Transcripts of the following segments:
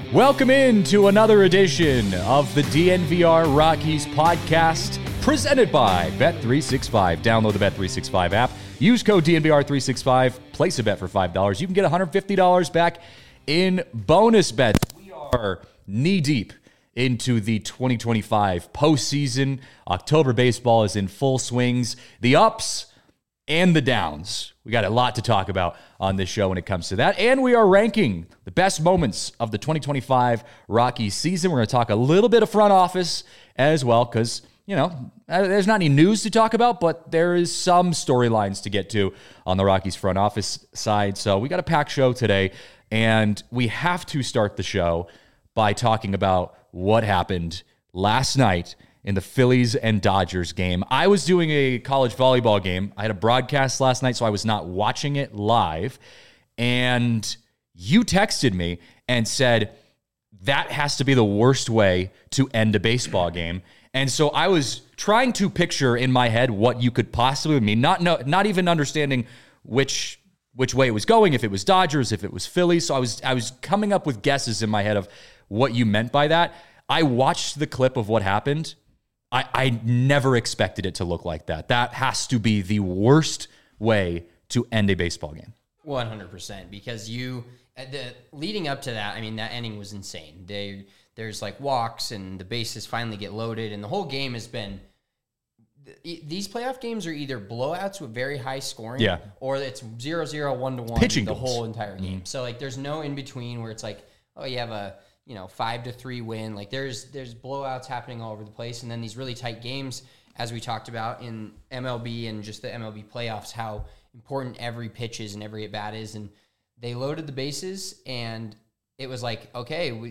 Welcome in to another edition of the DNVR Rockies podcast presented by Bet365. Download the Bet365 app. Use code DNVR365. Place a bet for $5. You can get $150 back in bonus bets. We are knee-deep into the 2025 postseason. October baseball is in full swings. The ups and the downs. We got a lot to talk about on this show when it comes to that. And we are ranking the best moments of the 2025 Rockies season. We're going to talk a little bit of front office as well because, there's not any news to talk about, but there is some storylines to get to on the Rockies front office side. So we got a packed show today, and we have to start the show by talking about what happened last night in the Phillies and Dodgers game. I was doing a college volleyball game. I had a broadcast last night, so I was not watching it live. And you texted me and said, that has to be the worst way to end a baseball game. And so I was trying to picture in my head what you could possibly mean, not even understanding which way it was going, if it was Dodgers, if it was Phillies. So I was coming up with guesses in my head of what you meant by that. I watched the clip of what happened. I never expected it to look like that. That has to be the worst way to end a baseball game. 100%, because leading up to that, that inning was insane. There's like walks and the bases finally get loaded, and the whole game has been. These playoff games are either blowouts with very high scoring, or it's 0-0, 1-1 pitching the goals. Whole entire game. So like, there's no in between where it's like, oh, you have a 5-3 win. Like there's blowouts happening all over the place, and then these really tight games, as we talked about in MLB and just the MLB playoffs, how important every pitch is and every at bat is. And they loaded the bases, and it was like, okay,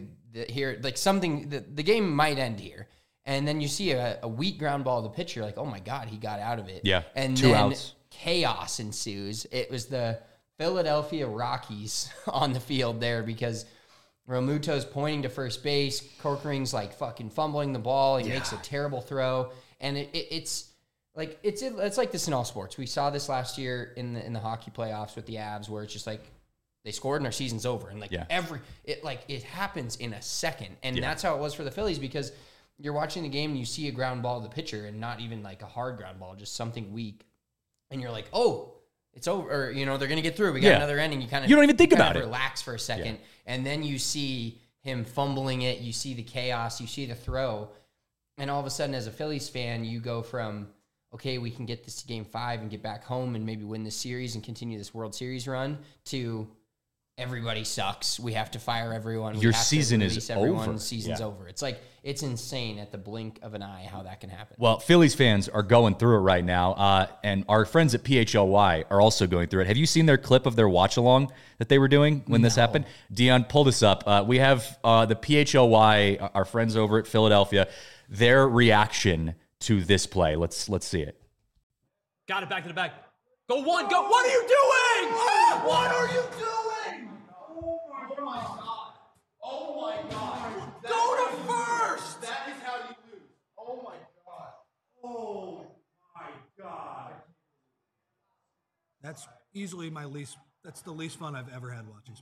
the game might end here. And then you see a weak ground ball to the pitcher, like, oh my God, he got out of it. Yeah, and 2 then outs. Chaos ensues. It was the Philadelphia Rockies on the field there because Realmuto's pointing to first base. Corkering's like fucking fumbling the ball. He makes a terrible throw. And it's like this in all sports. We saw this last year in the hockey playoffs with the Avs, where it's just like they scored and our season's over. And it happens in a second. And that's how it was for the Phillies, because you're watching the game and you see a ground ball to the pitcher, and not even like a hard ground ball, just something weak. And you're like, oh, it's over. Or, they're going to get through. We got another inning. You don't even think about it. Relax for a second. And then you see him fumbling it. You see the chaos. You see the throw. And all of a sudden, as a Phillies fan, you go from, okay, we can get this to Game 5 and get back home and maybe win this series and continue this World Series run, to everybody sucks. We have to fire everyone. Your season is over. Season's over. It's like, it's insane at the blink of an eye how that can happen. Well, Phillies fans are going through it right now, and our friends at PHLY are also going through it. Have you seen their clip of their watch-along that they were doing when this happened? Dion, pull this up. We have the PHLY, our friends over at Philadelphia, their reaction to this play. Let's see it. Got it, back to the back. Go one, go. What are you doing? What are you doing? Oh my God. Oh my God. Go to first. That is how you lose. Oh my God. Oh my God. That's easily that's the least fun I've ever had watching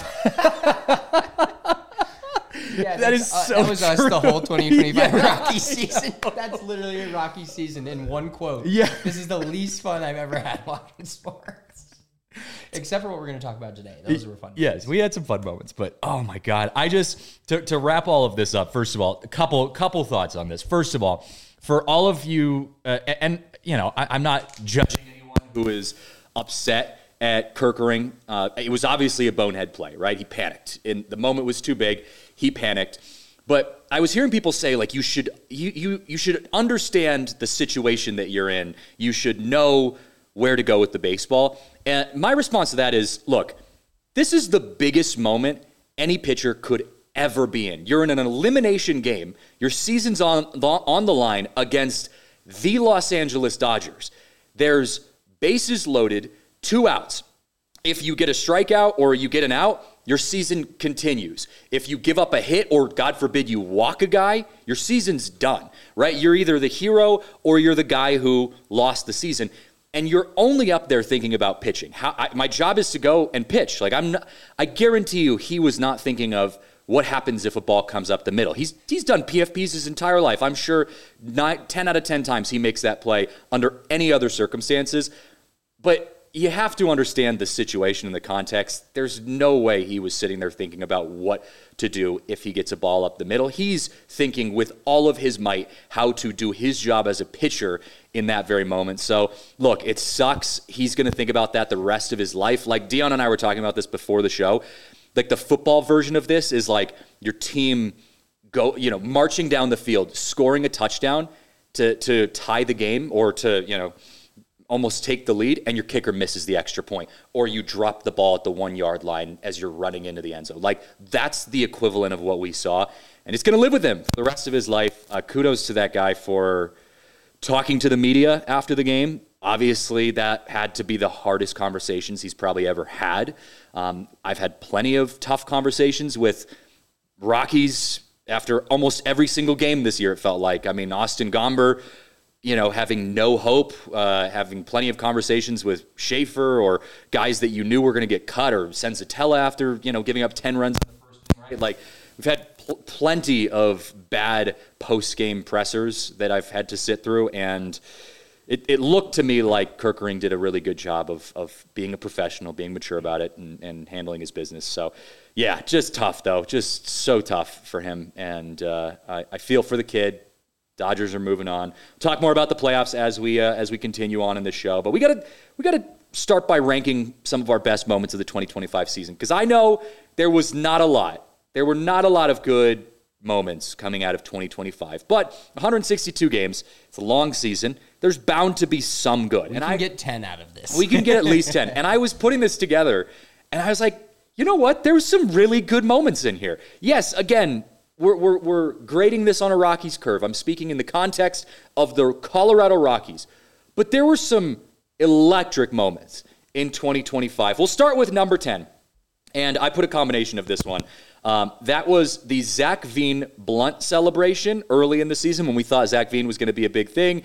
sports. That is so that was us the whole 2025 Rocky season. That's literally a Rocky season in one quote. Yeah. This is the least fun I've ever had watching sports. Except for what we're going to talk about today. Those were fun. Yes, we had some fun moments, but oh my God. I just, to wrap all of this up, first of all, a couple thoughts on this. First of all, for all of you, I'm not judging anyone who is upset at Corkering. It was obviously a bonehead play, right? He panicked. And the moment was too big. He panicked. But I was hearing people say, like, you should understand the situation that you're in. You should know where to go with the baseball. And my response to that is, look, this is the biggest moment any pitcher could ever be in. You're in an elimination game. Your season's on the line against the Los Angeles Dodgers. There's bases loaded, 2 outs. If you get a strikeout or you get an out, your season continues. If you give up a hit or, God forbid, you walk a guy, your season's done, right? You're either the hero or you're the guy who lost the season. And you're only up there thinking about pitching. My job is to go and pitch. Like I guarantee you he was not thinking of what happens if a ball comes up the middle. He's done PFPs his entire life. I'm sure 10 out of 10 times he makes that play under any other circumstances. But you have to understand the situation and the context. There's no way he was sitting there thinking about what to do if he gets a ball up the middle. He's thinking with all of his might how to do his job as a pitcher in that very moment. So, look, it sucks. He's going to think about that the rest of his life. Like Dion and I were talking about this before the show. Like the football version of this is like your team marching down the field, scoring a touchdown to tie the game or to, almost take the lead, and your kicker misses the extra point, or you drop the ball at the 1 yard line as you're running into the end zone. Like, that's the equivalent of what we saw, and it's going to live with him for the rest of his life. Kudos to that guy for talking to the media after the game. Obviously, that had to be the hardest conversations he's probably ever had. I've had plenty of tough conversations with Rockies after almost every single game this year, it felt like. I mean, Austin Gomber, having no hope, having plenty of conversations with Schaefer or guys that you knew were going to get cut, or Senzatella after, giving up 10 runs in the first inning, right? Like, we've had plenty of bad post-game pressers that I've had to sit through, and it looked to me like Kerkering did a really good job of being a professional, being mature about it, and handling his business. So, yeah, just tough, though. Just so tough for him, and I feel for the kid. Dodgers are moving on. We'll talk more about the playoffs as we continue on in the show. But we gotta start by ranking some of our best moments of the 2025 season, because I know there was not a lot. There were not a lot of good moments coming out of 2025. But 162 games, it's a long season. There's bound to be some good. We can get 10 out of this. We can get at least 10. And I was putting this together, and I was like, you know what? There was some really good moments in here. Yes, again, We're grading this on a Rockies curve. I'm speaking in the context of the Colorado Rockies. But there were some electric moments in 2025. We'll start with number 10. And I put a combination of this one. That was the Zach Veen blunt celebration early in the season when we thought Zach Veen was going to be a big thing,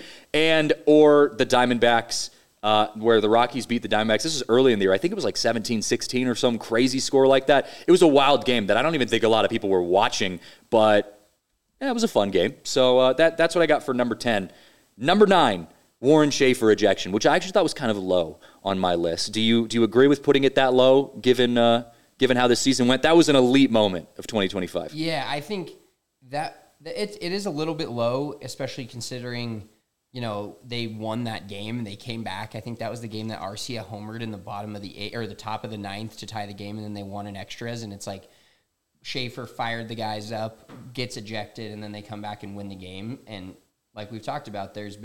or the Diamondbacks, where the Rockies beat the Diamondbacks. This was early in the year. I think it was like 17-16 or some crazy score like that. It was a wild game that I don't even think a lot of people were watching, but it was a fun game. So that's what I got for number 10. Number 9, Warren Schaefer ejection, which I actually thought was kind of low on my list. Do you agree with putting it that low, given how this season went? That was an elite moment of 2025. Yeah, I think that it is a little bit low, especially considering they won that game and they came back. I think that was the game that Arcia homered in the bottom of the 8th or the top of the 9th to tie the game, and then they won in extras. And it's like Schaefer fired the guys up, gets ejected, and then they come back and win the game. And like we've talked about, there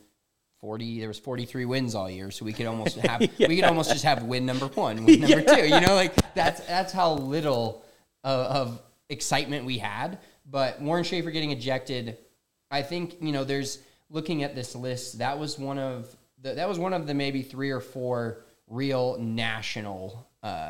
was 43 wins all year, so we could almost have we could almost just have win number 1, win number 2. That's how little of excitement we had. But Warren Schaefer getting ejected, I think there's. Looking at this list, that was one of the maybe 3 or 4 real national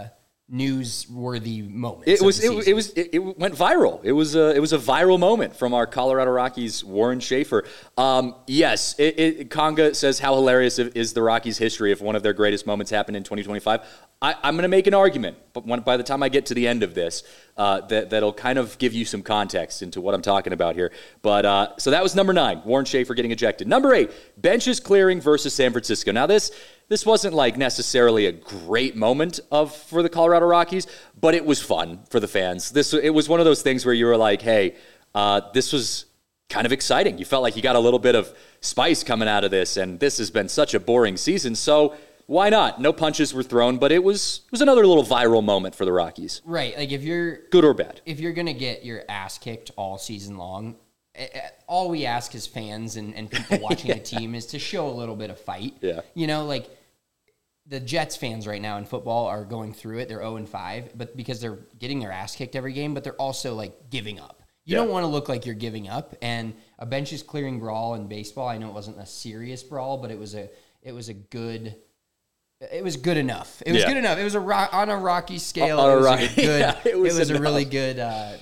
newsworthy moments. It went viral. It was a viral moment from our Colorado Rockies Warren Schaefer. Yes, Conga says how hilarious is the Rockies' history if one of their greatest moments happened in 2025. I'm going to make an argument, but by the time I get to the end of this, that'll kind of give you some context into what I'm talking about here. But so that was number 9, Warren Schaefer getting ejected. Number 8, benches clearing versus San Francisco. Now this wasn't like necessarily a great moment for the Colorado Rockies, but it was fun for the fans. It was one of those things where you were like, hey, this was kind of exciting. You felt like you got a little bit of spice coming out of this, and this has been such a boring season, so why not? No punches were thrown, but it was another little viral moment for the Rockies. Right. Like if you're good or bad. If you're going to get your ass kicked all season long, all we ask as fans and people watching the team is to show a little bit of fight. Yeah. Like the Jets fans right now in football are going through it. They're 0-5, but because they're getting their ass kicked every game, but they're also like giving up. You don't want to look like you're giving up. And a benches clearing brawl in baseball, I know it wasn't a serious brawl, but it was good enough. It was good enough. It was on a Rocky scale. It was a really good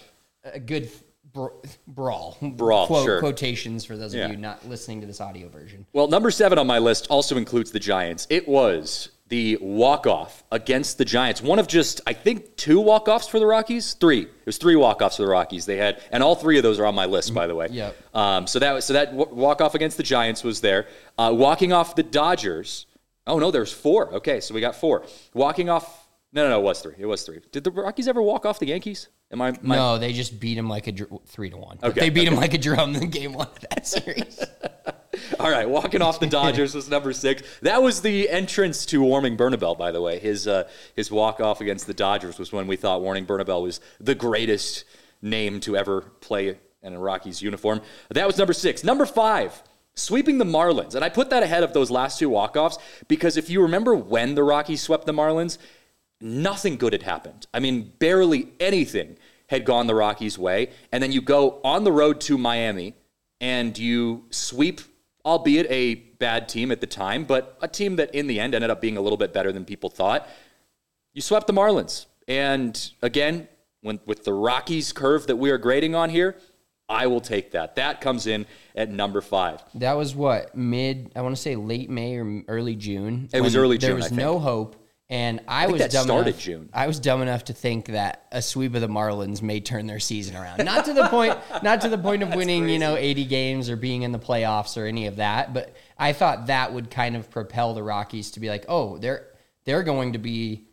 brawl. Sure. Quotations for those of you not listening to this audio version. Well, number 7 on my list also includes the Giants. It was the walk-off against the Giants. One of just, I think, 2 walk-offs for the Rockies. 3. It was 3 walk-offs for the Rockies. They had, and all 3 of those are on my list, by the way. Yep. So that walk-off against the Giants was there. Walking off the Dodgers. Oh no, there's 4. Okay, so we got 4. Walking off. No, it was 3. It was 3. Did the Rockies ever walk off the Yankees? No, they just beat him like a 3-1. Okay, They beat him like a drum in game 1 of that series. All right, walking off the Dodgers was number 6. That was the entrance to Warming Bernabel, by the way. His walk-off against the Dodgers was when we thought Warming Bernabel was the greatest name to ever play in a Rockies uniform. That was number 6. Number 5, sweeping the Marlins. And I put that ahead of those last 2 walk-offs because if you remember when the Rockies swept the Marlins, nothing good had happened. I mean, barely anything had gone the Rockies' way. And then you go on the road to Miami and you sweep, albeit a bad team at the time, but a team that in the end ended up being a little bit better than people thought. You swept the Marlins. And again, with the Rockies curve that we are grading on here, I will take that. That comes in at number 5. That was what, I want to say late May or early June. It was early June, There was no hope. And I was dumb enough to think that a sweep of the Marlins may turn their season around. Not to the point of winning, 80 games or being in the playoffs or any of that. But I thought that would kind of propel the Rockies to be like, oh, they're not going to be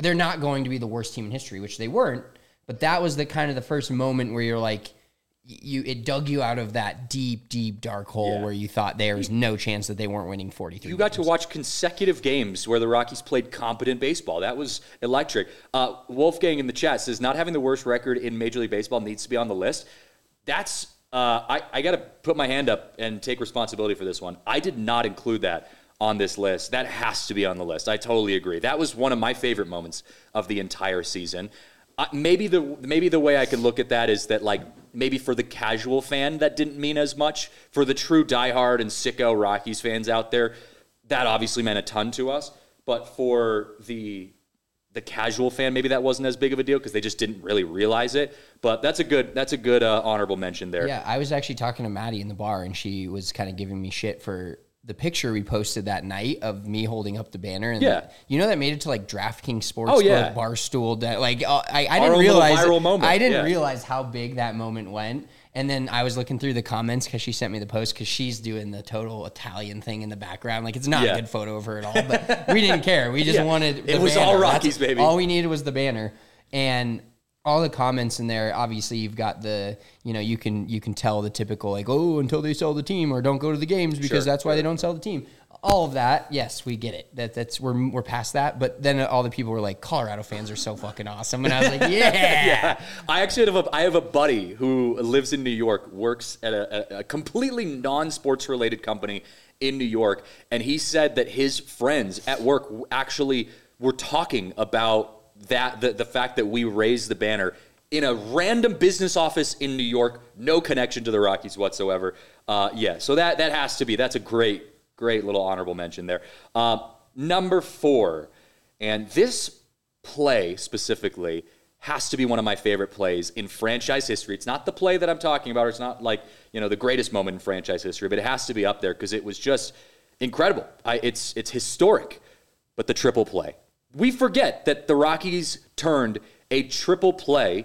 the worst team in history, which they weren't. But that was the kind of the first moment where you're like, it dug you out of that deep, deep dark hole where you thought there was no chance that they weren't winning 43 You got games. to watch consecutive games where the Rockies played competent baseball. That was electric. Wolfgang in the chat says, not having the worst record in Major League Baseball needs to be on the list. That's, I got to put my hand up and take responsibility for this one. I did not include that on this list. That has to be on the list. I totally agree. That was one of my favorite moments of the entire season. Maybe the way I could look at that is that, like, maybe for the casual fan, that didn't mean as much. For the true diehard and sicko Rockies fans out there, that obviously meant a ton to us. But for the casual fan, maybe that wasn't as big of a deal because they just didn't really realize it. But that's a good honorable mention there. Yeah, I was actually talking to Maddie in the bar, and she was kind of giving me shit for the picture we posted that night of me holding up the banner. And that made it to like DraftKings Sportsbook, Barstool. That like I didn't realize viral moment. I didn't realize how big that moment went. And then I was looking through the comments because she sent me the post because she's doing the total Italian thing in the background. Like, it's not a good photo of her at all, but we didn't care. We just wanted the It was banner. all Rockies, baby. All we needed was the banner. And all the comments in there, obviously you've got the, you can tell the typical like, oh, until they sell the team or don't go to the games because that's why they don't sell the team. All of that, yes, we get it. That's we're past that. But then all the people were like, Colorado fans are so fucking awesome, and I was like, yeah. I actually have a buddy who lives in New York, works at a completely non-sports related company in New York, and he said that his friends at work actually were talking about that the fact that we raised the banner in a random business office in New York, no connection to the Rockies whatsoever. So that has to be, that's a great little honorable mention there. Number 4, and this play specifically has to be one of my favorite plays in franchise history. It's not the play that I'm talking about, or it's not like, the greatest moment in franchise history, but it has to be up there because it was just incredible. It's historic, but the triple play. We forget that the Rockies turned a triple play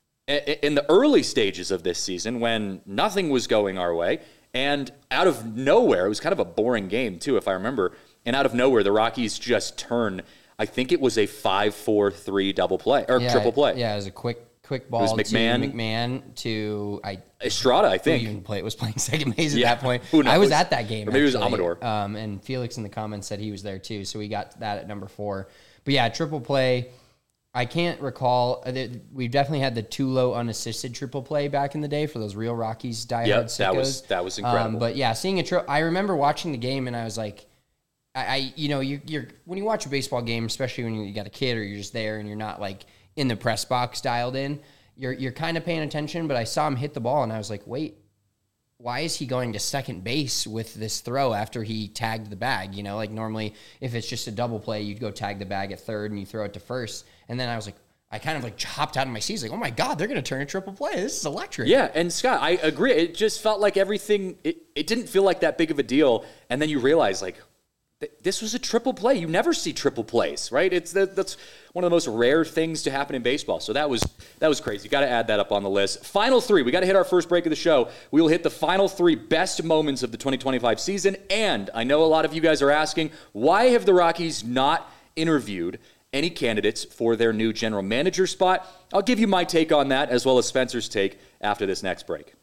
in the early stages of this season when nothing was going our way. And out of nowhere, it was kind of a boring game too, if I remember. And out of nowhere, the Rockies just turn, I think it was a 5-4-3 double play, or triple play. Yeah, it was a quick ball to McMahon to Estrada, I think. Was playing second base at that point. Who knows? I was at that game. Or maybe actually. it was Amador. And Felix in the comments said he was there too, so we got that at number 4. But yeah, triple play. I can't recall. We've definitely had the Tulo unassisted triple play back in the day for those real Rockies diehard sickos. That was incredible. But yeah, seeing I remember watching the game and I was like, you're when you watch a baseball game, especially when you got a kid or you're just there and you're not like in the press box dialed in, you're kind of paying attention. But I saw him hit the ball and I was like, wait, why is he going to second base with this throw after he tagged the bag? Like normally if it's just a double play, you'd go tag the bag at third and you throw it to first. And then I was like, I kind of like hopped out of my seat. Like, oh my God, they're going to turn a triple play. This is electric. Yeah, and Scott, I agree. It just felt like everything, it didn't feel like that big of a deal. And then you realize, like, this was a triple play. You never see triple plays, right? That's one of the most rare things to happen in baseball. So that was crazy. You got to add that up on the list. Final three. We got to hit our first break of the show. We will hit the final three best moments of the 2025 season. And I know a lot of you guys are asking, why have the Rockies not interviewed any candidates for their new general manager spot? I'll give you my take on that, as well as Spencer's take after this next break.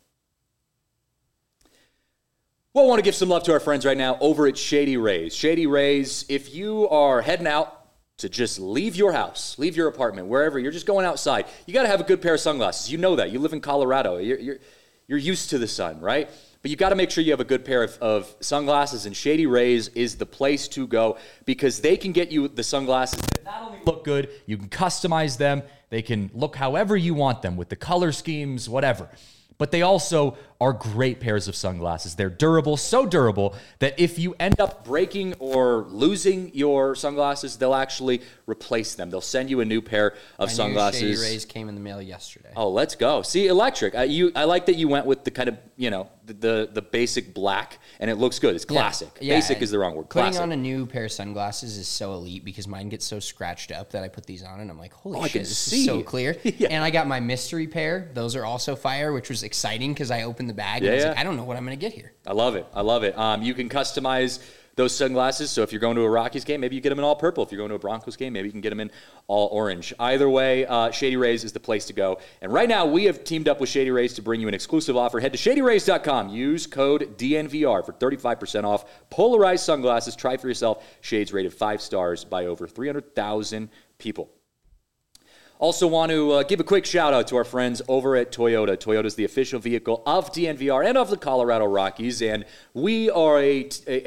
Well, I want to give some love to our friends right now over at Shady Rays. Shady Rays, if you are heading out to just leave your house, leave your apartment, wherever, you're just going outside, you got to have a good pair of sunglasses. You know that. You live in Colorado. You're used to the sun, right? But you got to make sure you have a good pair of sunglasses, and Shady Rays is the place to go because they can get you the sunglasses that not only look good, you can customize them. They can look however you want them with the color schemes, whatever. But they also are great pairs of sunglasses. They're durable, so durable that if you end up breaking or losing your sunglasses, they'll actually replace them. They'll send you a new pair of sunglasses. Shady Rays came in the mail yesterday. Oh, let's go. See, electric. I like that you went with the kind of, the basic black, and it looks good. It's classic. Yeah, basic is the wrong word. Classic. Putting on a new pair of sunglasses is so elite because mine gets so scratched up that I put these on and I'm like, holy shit, this is so clear. Yeah. And I got my mystery pair. Those are also fire, which was exciting because I opened the bag and I was like, I don't know what I'm going to get here. I love it. You can customize those sunglasses. So if you're going to a Rockies game, maybe you get them in all purple. If you're going to a Broncos game, maybe you can get them in all orange. Either way, Shady Rays is the place to go. And right now, we have teamed up with Shady Rays to bring you an exclusive offer. Head to ShadyRays.com. Use code DNVR for 35% off polarized sunglasses. Try for yourself. Shades rated 5 stars by over 300,000 people. Also want to give a quick shout out to our friends over at Toyota. Toyota is the official vehicle of DNVR and of the Colorado Rockies. And we are a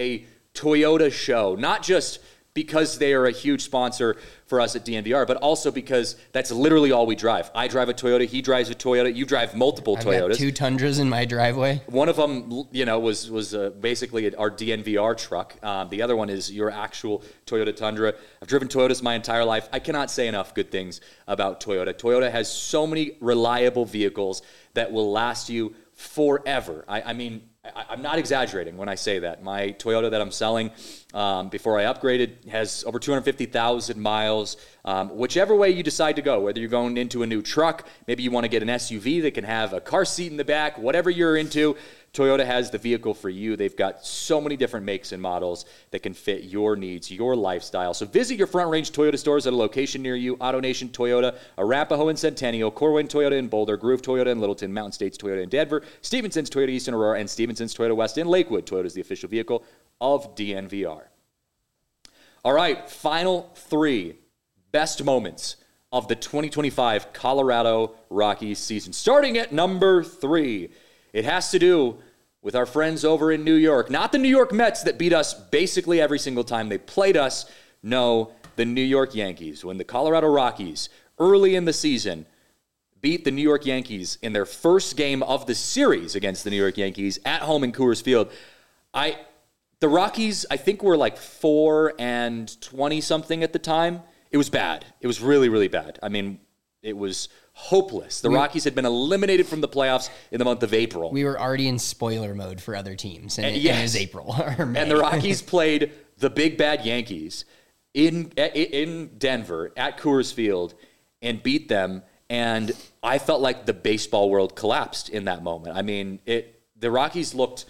Toyota show, not just because they are a huge sponsor for us at DNVR, but also because that's literally all we drive. I drive a Toyota, he drives a Toyota, you drive multiple Toyotas. I've got 2 Tundras in my driveway. One of them, was basically our DNVR truck. The other one is your actual Toyota Tundra. I've driven Toyotas my entire life. I cannot say enough good things about Toyota. Toyota has so many reliable vehicles that will last you forever. I'm not exaggerating when I say that. My Toyota that I'm selling before I upgraded has over 250,000 miles. Whichever way you decide to go, whether you're going into a new truck, maybe you want to get an SUV that can have a car seat in the back, whatever you're into, Toyota has the vehicle for you. They've got so many different makes and models that can fit your needs, your lifestyle. So visit your Front Range Toyota stores at a location near you. AutoNation Toyota, Arapahoe and Centennial, Corwin Toyota in Boulder, Groove Toyota in Littleton, Mountain States Toyota in Denver, Stevenson's Toyota East in Aurora, and Stevenson's Toyota West in Lakewood. Toyota is the official vehicle of DNVR. All right, final 3 best moments of the 2025 Colorado Rockies season. Starting at number 3. It has to do with our friends over in New York. Not the New York Mets that beat us basically every single time they played us. No, the New York Yankees. When the Colorado Rockies, early in the season, beat the New York Yankees in their first game of the series against the New York Yankees at home in Coors Field. The Rockies, I think, were like 4-20-something at the time. It was bad. It was really, really bad. It was hopeless. The Rockies had been eliminated from the playoffs in the month of April. We were already in spoiler mode for other teams, and it was April or May. And the Rockies played the big bad Yankees in Denver at Coors Field and beat them. And I felt like the baseball world collapsed in that moment. The Rockies looked.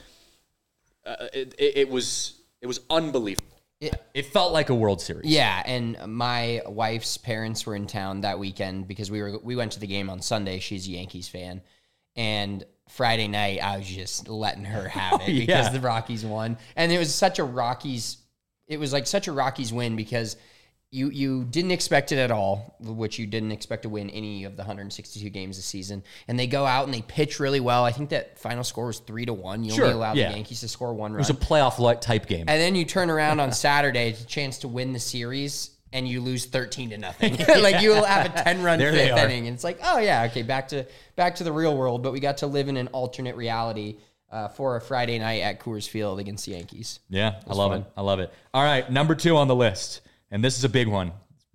It was unbelievable. It felt like a World Series. Yeah, and my wife's parents were in town that weekend because we went to the game on Sunday. She's a Yankees fan. And Friday night, I was just letting her have it because the Rockies won. And it was such a Rockies win because you didn't expect it at all, which you didn't expect to win any of the 162 games this season. And they go out and they pitch really well. I think that final score was 3-1. You only allowed the Yankees to score 1 run. It was a playoff type game. And then you turn around on Saturday, it's a chance to win the series, and you lose 13-0. Like you will have a 10-run 5th inning, and it's like, oh yeah, okay, back to the real world. But we got to live in an alternate reality for a Friday night at Coors Field against the Yankees. Yeah, I love it. I love it. All right, number 2 on the list. And this is a big one.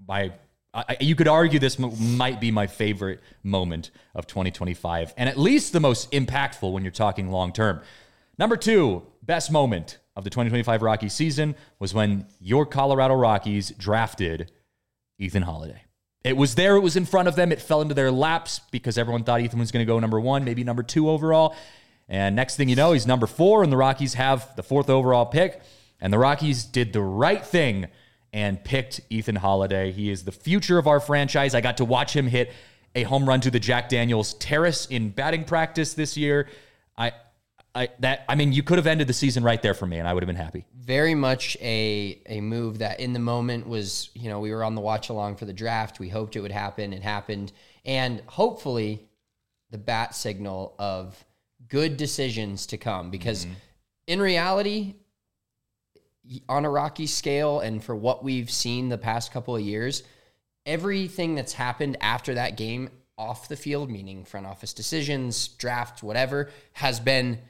You could argue this might be my favorite moment of 2025, and at least the most impactful when you're talking long term. Number 2, best moment of the 2025 Rockies season was when your Colorado Rockies drafted Ethan Holiday. It was there. It was in front of them. It fell into their laps because everyone thought Ethan was going to go number 1, maybe number 2 overall. And next thing you know, he's number 4, and the Rockies have the 4th overall pick. And the Rockies did the right thing and picked Ethan Holiday. He is the future of our franchise. I got to watch him hit a home run to the Jack Daniels terrace in batting practice this year. You could have ended the season right there for me, and I would have been happy. Very much a move that in the moment was, we were on the watch along for the draft. We hoped it would happen. It happened. And hopefully the bat signal of good decisions to come, because in reality, on a Rocky scale and for what we've seen the past couple of years, everything that's happened after that game off the field, meaning front office decisions, draft, whatever, has been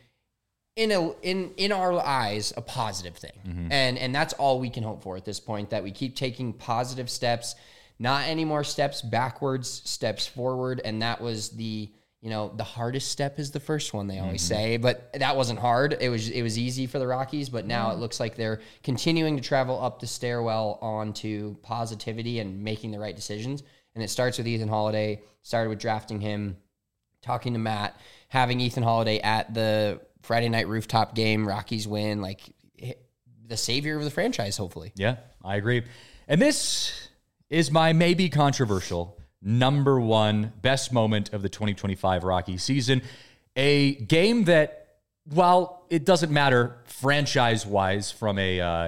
in our eyes a positive thing. And that's all we can hope for at this point, that we keep taking positive steps, not any more steps backwards, steps forward. And that was the hardest step is the first one, they always say, but that wasn't hard. It was easy for the Rockies, but now it looks like they're continuing to travel up the stairwell onto positivity and making the right decisions. And it starts with Ethan Holiday, started with drafting him, talking to Matt, having Ethan Holiday at the Friday night rooftop game, Rockies win, like the savior of the franchise, hopefully. Yeah, I agree. And this is my maybe controversial number 1 best moment of the 2025 Rockies season. A game that, while it doesn't matter franchise-wise from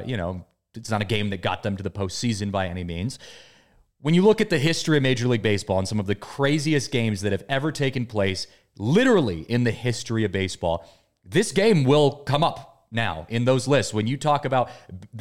it's not a game that got them to the postseason by any means. When you look at the history of Major League Baseball and some of the craziest games that have ever taken place, literally in the history of baseball, this game will come up now in those lists. When you talk about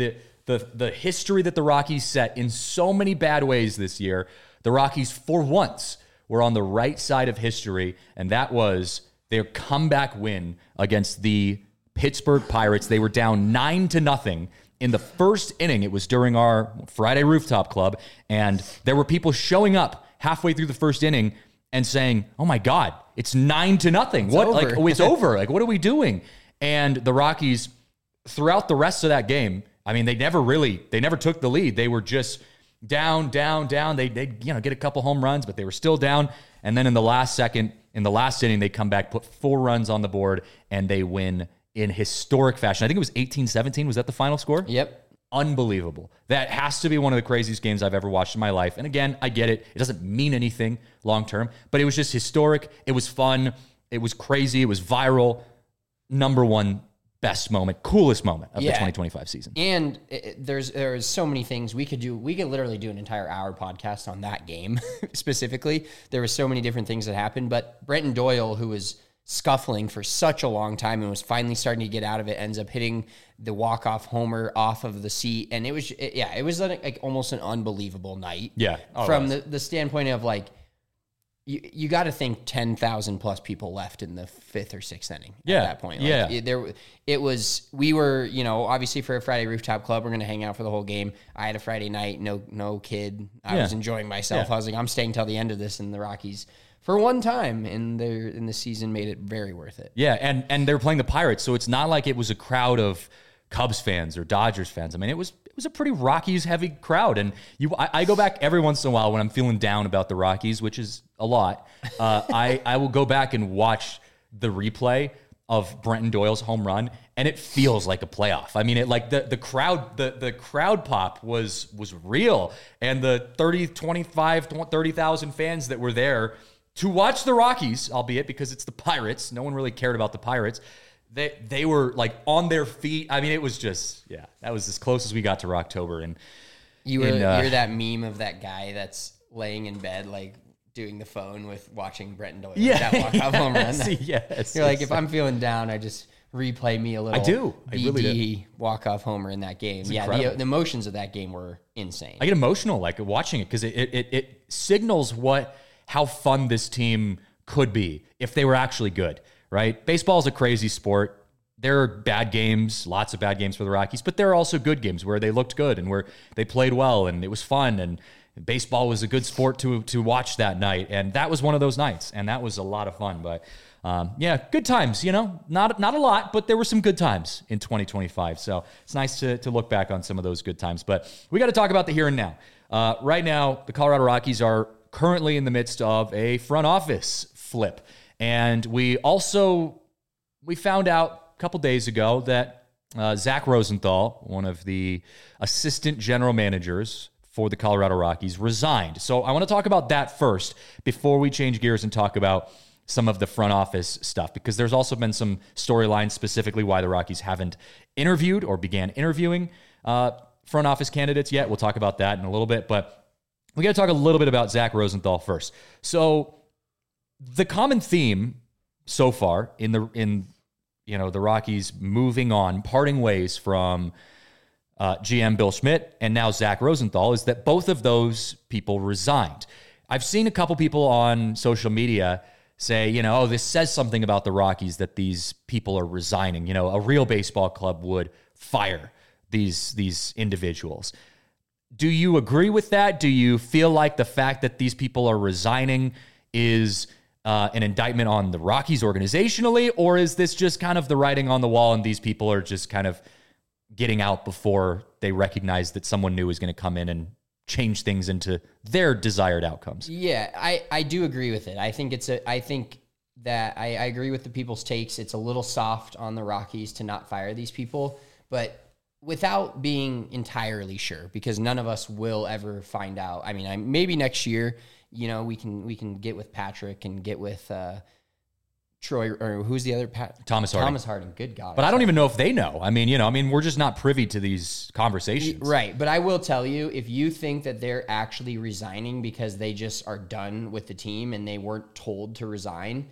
the history that the Rockies set in so many bad ways this year, the Rockies, for once, were on the right side of history, and that was their comeback win against the Pittsburgh Pirates. They were down 9-0 in the first inning. It was during our Friday Rooftop Club, and there were people showing up halfway through the first inning and saying, "Oh my God, it's 9-0. What? Like, oh, it's over. Like, what are we doing?" And the Rockies, throughout the rest of that game, I mean, they never took the lead. They were just down. They get a couple home runs, but they were still down. And then in the last inning, they come back, put 4 runs on the board, and they win in historic fashion. I think it was 18-17. Was that the final score? Yep. Unbelievable. That has to be one of the craziest games I've ever watched in my life. And again, I get it. It doesn't mean anything long term, but it was just historic. It was fun. It was crazy. It was viral. Number 1 best moment, coolest moment of the 2025 season. And there's so many things we could do. We could literally do an entire hour podcast on that game specifically. There were so many different things that happened, but Brenton Doyle, who was scuffling for such a long time and was finally starting to get out of it, ends up hitting the walk-off homer off of the seat. And it was like almost an unbelievable night. Yeah. From the standpoint of like, you got to think 10,000 plus people left in the 5th or 6th inning at that point. Like, we were, obviously for a Friday Rooftop Club, we're going to hang out for the whole game. I had a Friday night, no kid. I was enjoying myself. I was like, I'm staying till the end of this, and the Rockies, for one time in the season, made it very worth it. Yeah, and they were playing the Pirates, so it's not like it was a crowd of Cubs fans or Dodgers fans. I mean, it was a pretty Rockies heavy crowd, and I go back every once in a while when I'm feeling down about the Rockies, which is a lot. I will go back and watch the replay of Brenton Doyle's home run, and it feels like a playoff. I mean, it like the crowd pop was real, and the 30,000 fans that were there to watch the Rockies, albeit because it's the Pirates. No one really cared about the Pirates. They were like on their feet. I mean, it was just, that was as close as we got to Rocktober. And you're that meme of that guy that's laying in bed, like doing the phone with watching Brenton Doyle. That walk-off home run. Yes. You're like, if I'm feeling down, I just replay me a little. I do. I really do. Walk-off homer in that game. It's the emotions of that game were insane. I get emotional like watching it because it signals how fun this team could be if they were actually good. Right? Baseball is a crazy sport. There are bad games, lots of bad games for the Rockies, but there are also good games where they looked good and where they played well and it was fun and baseball was a good sport to watch that night. And that was one of those nights. And that was a lot of fun. But yeah, good times, not a lot, but there were some good times in 2025. So it's nice to look back on some of those good times. But we got to talk about the here and now. Right now, the Colorado Rockies are currently in the midst of a front office flip. And we found out a couple days ago that Zach Rosenthal, one of the assistant general managers for the Colorado Rockies, resigned. So I want to talk about that first before we change gears and talk about some of the front office stuff, because there's also been some storylines specifically why the Rockies haven't interviewed or began interviewing front office candidates yet. We'll talk about that in a little bit, but we got to talk a little bit about Zach Rosenthal first. So the common theme so far in the Rockies moving on, parting ways from GM Bill Schmidt and now Zach Rosenthal is that both of those people resigned. I've seen a couple people on social media say, this says something about the Rockies that these people are resigning. A real baseball club would fire these individuals. Do you agree with that? Do you feel like the fact that these people are resigning is an indictment on the Rockies organizationally, or is this just kind of the writing on the wall and these people are just kind of getting out before they recognize that someone new is going to come in and change things into their desired outcomes? Yeah, I do agree with it. I think I agree with the people's takes. It's a little soft on the Rockies to not fire these people, but without being entirely sure, because none of us will ever find out. I mean, maybe next year, we can get with Patrick and get with Troy, or who's the other Thomas Harding. Thomas Harding. Good God. But I don't even know if they know. We're just not privy to these conversations. Right. But I will tell you, if you think that they're actually resigning because they just are done with the team and they weren't told to resign,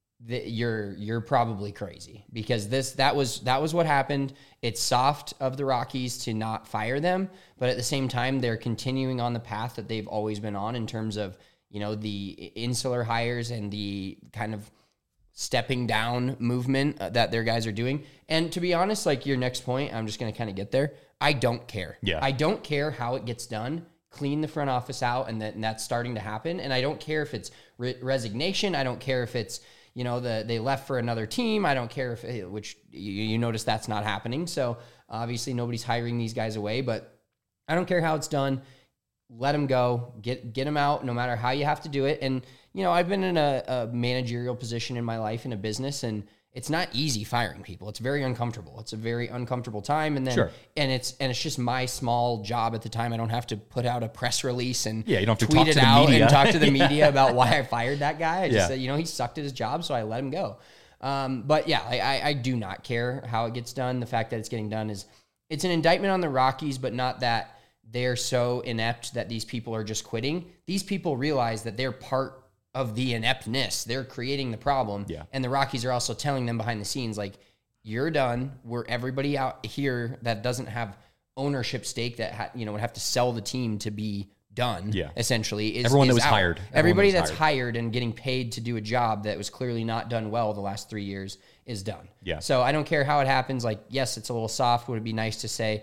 you're probably crazy, because that was what happened. It's soft of the Rockies to not fire them, but at the same time, they're continuing on the path that they've always been on in terms of, the insular hires and the kind of stepping down movement that their guys are doing. And to be honest, like your next point, I'm just going to kind of get there. I don't care. Yeah. I don't care how it gets done. Clean the front office out, and that's starting to happen. And I don't care if it's resignation. I don't care if it's, they left for another team. I don't care if, which you notice that's not happening. So obviously nobody's hiring these guys away, but I don't care how it's done. Let them go, get them out, no matter how you have to do it. And, I've been in a managerial position in my life in a business, and it's not easy firing people. It's very uncomfortable. It's a very uncomfortable time. And then, sure. and it's just my small job at the time. I don't have to put out a press release and you don't have to tweet talk it to the out media. and talk to the media about why I fired that guy. I just Yeah. said, he sucked at his job, so I let him go. But yeah, I do not care how it gets done. The fact that it's getting done it's an indictment on the Rockies, but not that they're so inept that these people are just quitting. These people realize that they're part of the ineptness. They're creating the problem. Yeah. And the Rockies are also telling them behind the scenes, like, you're done. Everybody out here that doesn't have ownership stake that would have to sell the team to be done. Yeah. Essentially, Everyone that is was out. hired. Everybody Everyone that that's was hired and getting paid to do a job that was clearly not done well the last 3 years is done. Yeah. So I don't care how it happens. Like, yes, it's a little soft. Would it be nice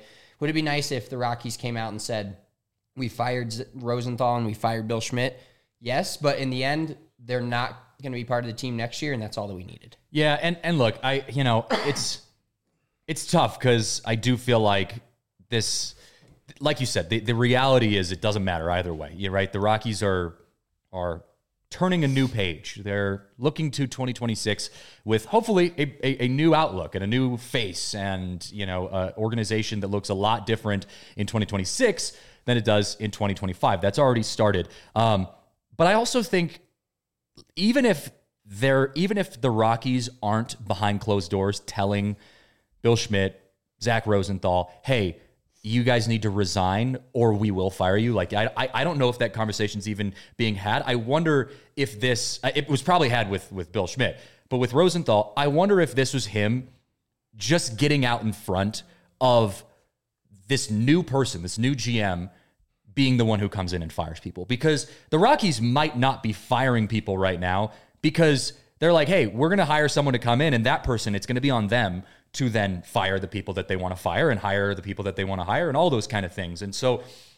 if the Rockies came out and said, we fired Rosenthal and we fired Bill Schmidt? Yes, but in the end, they're not going to be part of the team next year, and that's all that we needed. Yeah, and look, it's tough, because I do feel like this, like you said, the reality is it doesn't matter either way. You're right. The Rockies are turning a new page. They're looking to 2026 with hopefully a new outlook and a new face, and an organization that looks a lot different in 2026 than it does in 2025. That's already started. But I also think even if the Rockies aren't behind closed doors telling Bill Schmidt, Zach Rosenthal, hey, you guys need to resign or we will fire you. Like, I don't know if that conversation's even being had. I wonder if it was probably had with Bill Schmidt, but with Rosenthal, I wonder if this was him just getting out in front of this new person, this new GM, being the one who comes in and fires people. Because the Rockies might not be firing people right now because they're like, hey, we're going to hire someone to come in, and that person, it's going to be on them to then fire the people that they want to fire and hire the people that they want to hire and all those kind of things. And so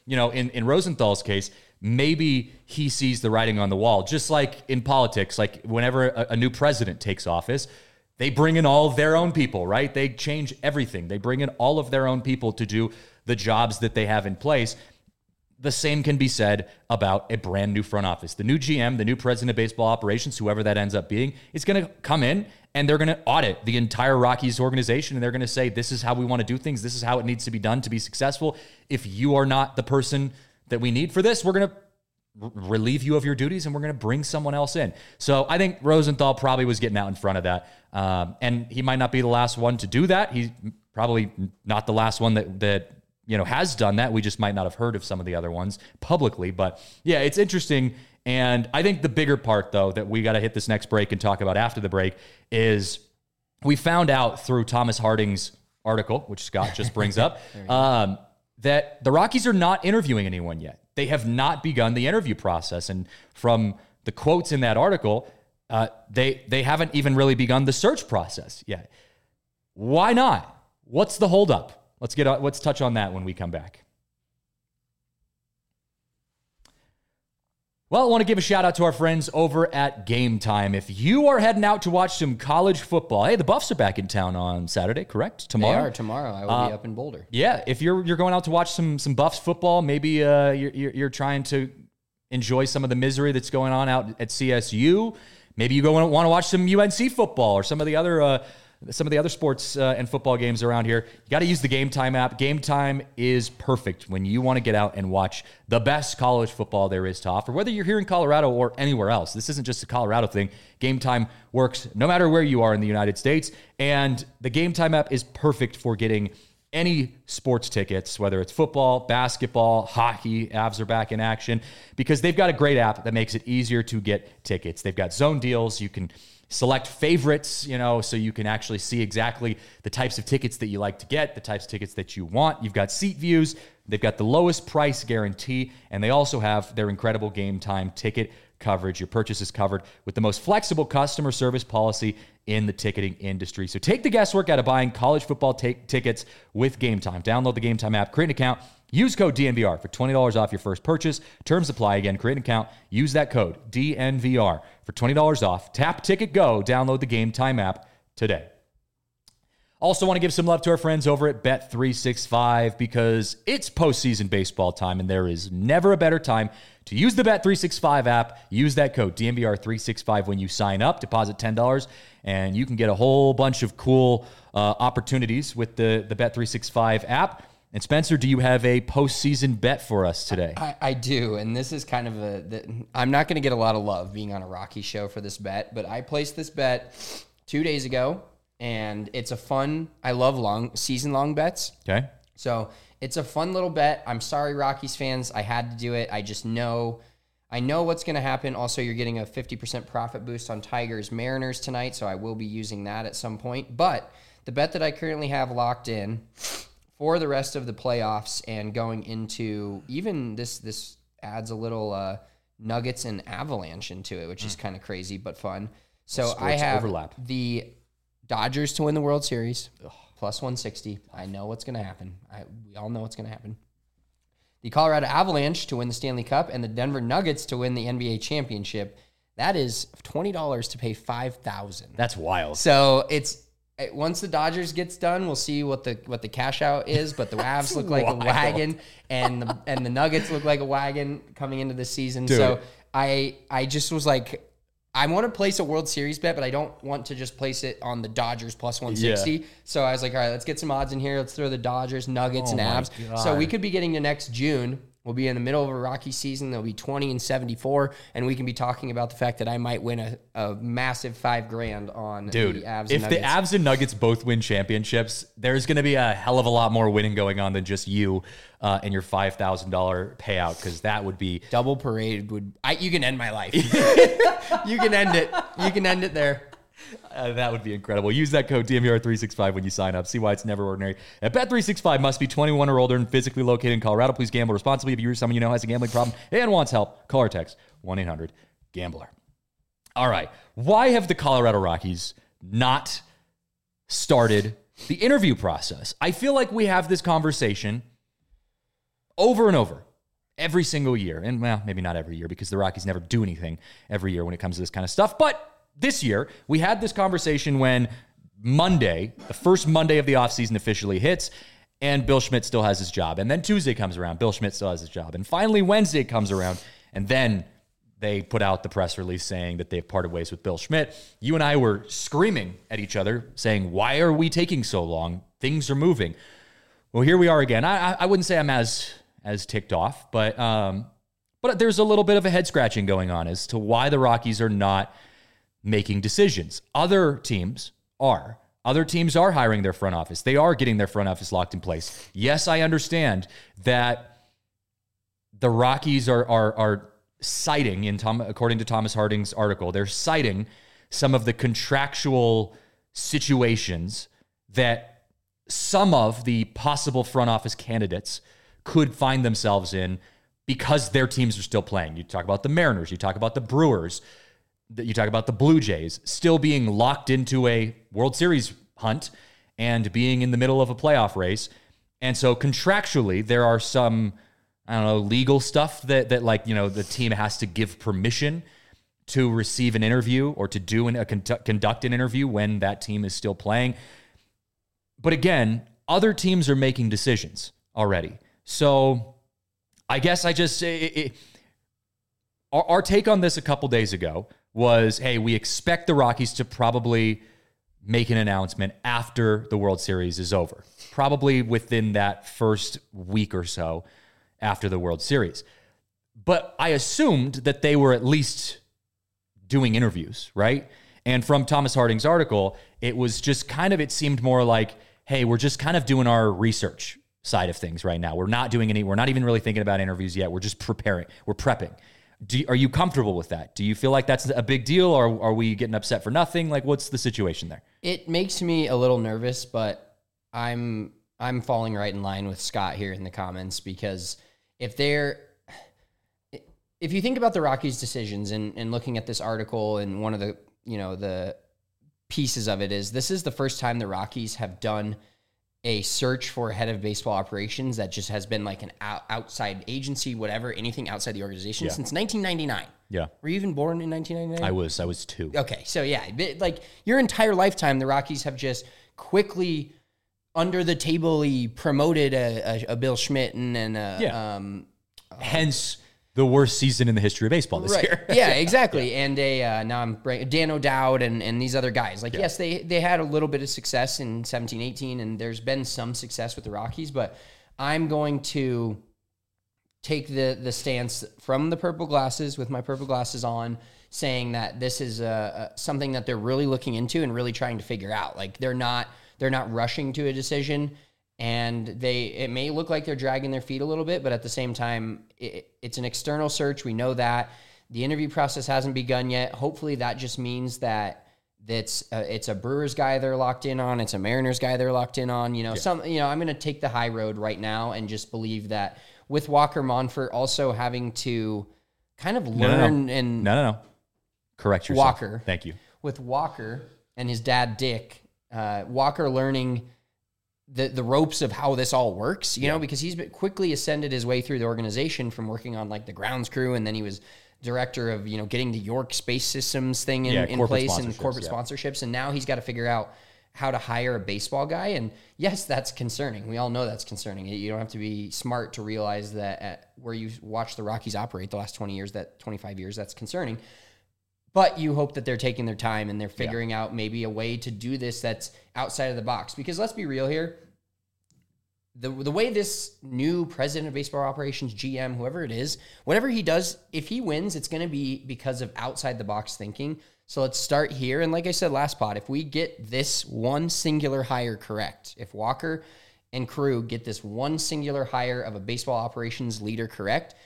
in Rosenthal's case, maybe he sees the writing on the wall. Just like in politics, like whenever a new president takes office, they bring in all of their own people, right? They change everything. They bring in all of their own people to do the jobs that they have in place. The same can be said about a brand new front office. The new GM, the new president of baseball operations, whoever that ends up being, is going to come in and they're going to audit the entire Rockies organization. And they're going to say, this is how we want to do things. This is how it needs to be done to be successful. If you are not the person that we need for this, we're going to relieve you of your duties and we're going to bring someone else in. So I think Rosenthal probably was getting out in front of that. And he might not be the last one to do that. He's probably not the last one that has done that. We just might not have heard of some of the other ones publicly. But yeah, it's interesting. And I think the bigger part, though, that we got to hit this next break and talk about after the break is we found out through Thomas Harding's article, which Scott just brings up, that the Rockies are not interviewing anyone yet. They have not begun the interview process. And from the quotes in that article, they haven't even really begun the search process yet. Why not? What's the holdup? Let's touch on that when we come back. Well, I want to give a shout out to our friends over at Game Time. If you are heading out to watch some college football, hey, the Buffs are back in town on Saturday, correct? Tomorrow? They are tomorrow. I will be up in Boulder. Yeah, if you're going out to watch some Buffs football, maybe you're trying to enjoy some of the misery that's going on out at CSU. Maybe you want to watch some UNC football or some of the other sports and football games around here. You got to use the Game Time app. Game Time is perfect when you want to get out and watch the best college football there is to offer, whether you're here in Colorado or anywhere else. This isn't just a Colorado thing. Game Time works no matter where you are in the United States, and the Game Time app is perfect for getting any sports tickets, whether it's football, basketball, hockey, Avs are back in action, because they've got a great app that makes it easier to get tickets. They've got zone deals. You can select favorites, so you can actually see exactly the types of tickets that you like to get, the types of tickets that you want. You've got seat views. They've got the lowest price guarantee, and they also have their incredible Game Time ticket coverage. Your purchase is covered with the most flexible customer service policy in the ticketing industry. So take the guesswork out of buying college football tickets with Game Time. Download the Game Time app, create an account, use code DNVR for $20 off your first purchase. Terms apply. Again, create an account, use that code DNVR for $20 off. Tap Ticket Go. Download the Game Time app today. Also want to give some love to our friends over at Bet365 because it's postseason baseball time and there is never a better time to use the Bet365 app. Use that code DNVR365 when you sign up. Deposit $10 and you can get a whole bunch of cool opportunities with the Bet365 app. And Spencer, do you have a postseason bet for us today? I do, and this is kind of I'm not going to get a lot of love being on a Rocky show for this bet, but I placed this bet 2 days ago, and it's a fun, I love season-long bets. Okay. So it's a fun little bet. I'm sorry, Rockies fans. I had to do it. I know what's going to happen. Also, you're getting a 50% profit boost on Tigers Mariners tonight, so I will be using that at some point. But the bet that I currently have locked in for the rest of the playoffs and going into even this adds a little Nuggets and Avalanche into it, which is kind of crazy but fun. So I have the Dodgers to win the World Series, plus 160. I know what's going to happen. We all know what's going to happen. The Colorado Avalanche to win the Stanley Cup and the Denver Nuggets to win the NBA championship. That is $20 to pay $5,000. That's wild. So once the Dodgers gets done, we'll see what the cash out is. But the Avs look like a wagon, and the Nuggets look like a wagon coming into this season. Dude. So I just was like, I want to place a World Series bet, but I don't want to just place it on the Dodgers plus 160. Yeah. So I was like, all right, let's get some odds in here. Let's throw the Dodgers, Nuggets, and Avs. So we could be getting to next June. We'll be in the middle of a Rocky season. There'll be 20-74, and we can be talking about the fact that I might win a massive $5,000 on the Avs and Nuggets. If the Avs and Nuggets both win championships, there's going to be a hell of a lot more winning going on than just you and your $5,000 payout, because that would be double parade. You can end my life. You can end it. You can end it there. That would be incredible. Use that code DNVR365 when you sign up. See why it's never ordinary. At Bet365 must be 21 or older and physically located in Colorado. Please gamble responsibly. If you or someone you know has a gambling problem and wants help, call or text 1-800-GAMBLER. All right. Why have the Colorado Rockies not started the interview process? I feel like we have this conversation over and over every single year. And well, maybe not every year because the Rockies never do anything every year when it comes to this kind of stuff. But this year, we had this conversation when Monday, the first Monday of the offseason officially hits, and Bill Schmidt still has his job. And then Tuesday comes around, Bill Schmidt still has his job. And finally, Wednesday comes around, and then they put out the press release saying that they've parted ways with Bill Schmidt. You and I were screaming at each other, saying, why are we taking so long? Things are moving. Well, here we are again. I wouldn't say I'm as ticked off, but there's a little bit of a head scratching going on as to why the Rockies are not making decisions. Other teams are. Other teams are hiring their front office. They are getting their front office locked in place. Yes, I understand that the Rockies are citing, according to Thomas Harding's article, they're citing some of the contractual situations that some of the possible front office candidates could find themselves in because their teams are still playing. You talk about the Mariners, you talk about the Brewers, you talk about the Blue Jays still being locked into a World Series hunt and being in the middle of a playoff race. And so contractually, there are some, legal stuff that like, the team has to give permission to receive an interview or to do conduct an interview when that team is still playing. But again, other teams are making decisions already. So I guess our take on this a couple days ago was, hey, we expect the Rockies to probably make an announcement after the World Series is over, probably within that first week or so after the World Series. But I assumed that they were at least doing interviews, right? And from Thomas Harding's article, it was just it seemed more like, hey, we're just kind of doing our research side of things right now. We're not even really thinking about interviews yet. We're just preparing. We're prepping. Are you comfortable with that? Do you feel like that's a big deal, or are we getting upset for nothing? Like, what's the situation there? It makes me a little nervous, but I'm falling right in line with Scott here in the comments, because if you think about the Rockies' decisions and looking at this article, and one of the the pieces of it is, this is the first time the Rockies have done a search for a head of baseball operations that just has been like an outside agency, whatever, anything outside the organization since 1999. Yeah. Were you even born in 1999? I was 2. Okay. So yeah, like your entire lifetime, the Rockies have just quickly under the table promoted a Bill Schmidt and hence the worst season in the history of baseball this year. Yeah, exactly. And Dan O'Dowd and these other guys. Like, yes, they had a little bit of success in 17-18, and there's been some success with the Rockies, but I'm going to take the stance from the purple glasses, with my purple glasses on, saying that this is something that they're really looking into and really trying to figure out. Like, they're not rushing to a decision. And it may look like they're dragging their feet a little bit, but at the same time, it's an external search. We know that the interview process hasn't begun yet. Hopefully that just means that it's a Brewers guy they're locked in on. It's a Mariners guy they're locked in on. I'm going to take the high road right now and just believe that with Walker Monfort also having to kind of learn No. Correct yourself. Walker. Thank you. With Walker and his dad, Dick, Walker learning the ropes of how this all works, because he's quickly ascended his way through the organization from working on like the grounds crew, and then he was director of, getting the York Space Systems thing in place and corporate sponsorships. And now he's got to figure out how to hire a baseball guy. And yes, that's concerning. We all know that's concerning. You don't have to be smart to realize that where you watch the Rockies operate the last 20 years, that 25 years, that's concerning. But you hope that they're taking their time and they're figuring out maybe a way to do this that's outside of the box. Because let's be real here. The way this new president of baseball operations, GM, whoever it is, whatever he does, if he wins, it's going to be because of outside the box thinking. So let's start here. And like I said last pod, if we get this one singular hire correct, if Walker and crew get this one singular hire of a baseball operations leader correct,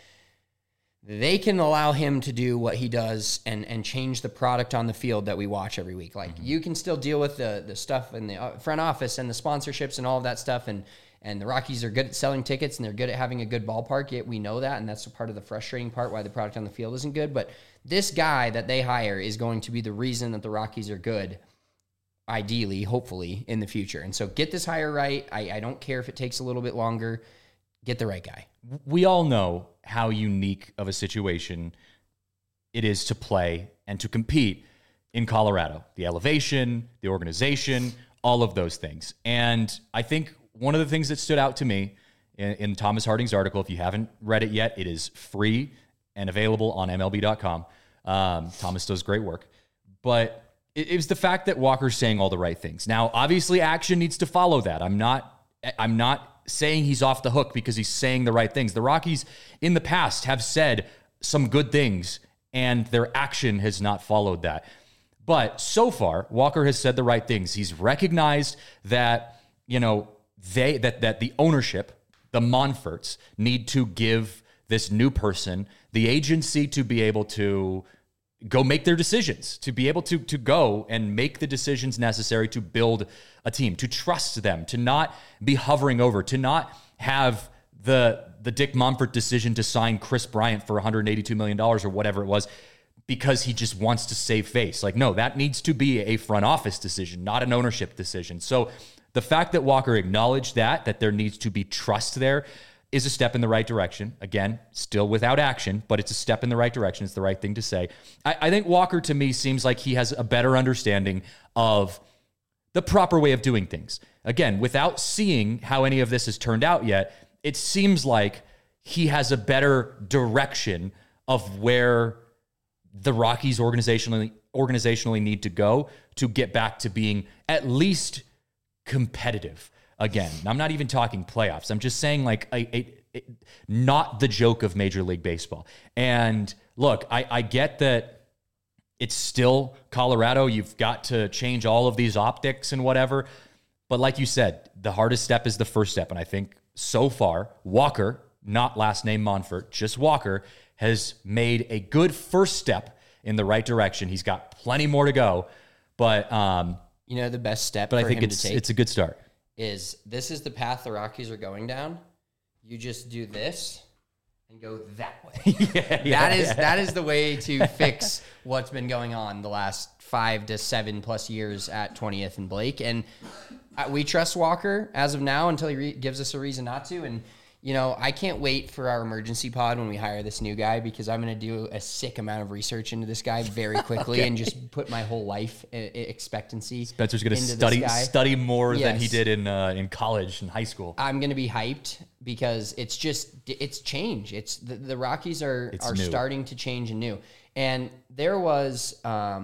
they can allow him to do what he does and change the product on the field that we watch every week. Like, you can still deal with the stuff in the front office and the sponsorships and all of that stuff. And the Rockies are good at selling tickets, and they're good at having a good ballpark. Yet we know that, and that's part of the frustrating part why the product on the field isn't good. But this guy that they hire is going to be the reason that the Rockies are good, ideally, hopefully, in the future. And so get this hire right. I don't care if it takes a little bit longer. Get the right guy. We all know how unique of a situation it is to play and to compete in Colorado. The elevation, the organization, all of those things. And I think one of the things that stood out to me in Thomas Harding's article, if you haven't read it yet, it is free and available on MLB.com. Thomas does great work. But it was the fact that Walker's saying all the right things. Now, obviously, action needs to follow that. I'm not saying he's off the hook because he's saying the right things. The Rockies in the past have said some good things, and their action has not followed that. But so far, Walker has said the right things. He's recognized that, that the ownership, the Monforts, need to give this new person the agency to be able to go make their decisions, to be able to go and make the decisions necessary to build a team, to trust them, to not be hovering over, to not have the Dick Monfort decision to sign Chris Bryant for $182 million or whatever it was because he just wants to save face. Like, no, that needs to be a front office decision, not an ownership decision. So the fact that Walker acknowledged that there needs to be trust there is a step in the right direction. Again, still without action, but it's a step in the right direction. It's the right thing to say. I think Walker, to me, seems like he has a better understanding of the proper way of doing things. Again, without seeing how any of this has turned out yet, it seems like he has a better direction of where the Rockies organizationally need to go to get back to being at least competitive again. I'm not even talking playoffs. I'm just saying like not the joke of Major League Baseball. And look, I get that it's still Colorado. You've got to change all of these optics and whatever. But like you said, the hardest step is the first step. And I think so far, Walker, not last name Monfort, just Walker, has made a good first step in the right direction. He's got plenty more to go. But the best step but for I think him to take it's a good start. This is the path the Rockies are going down. You just do this and go that way. That is the way to fix what's been going on the last 5 to 7+ years at 20th and Blake. And we trust Walker as of now until he gives us a reason not to. And I can't wait for our emergency pod when we hire this new guy, because I'm going to do a sick amount of research into this guy very quickly and just put my whole life expectancy. Spencer's going to study more than he did in college and high school. I'm going to be hyped because it's change. It's the Rockies are starting to change and new. And there was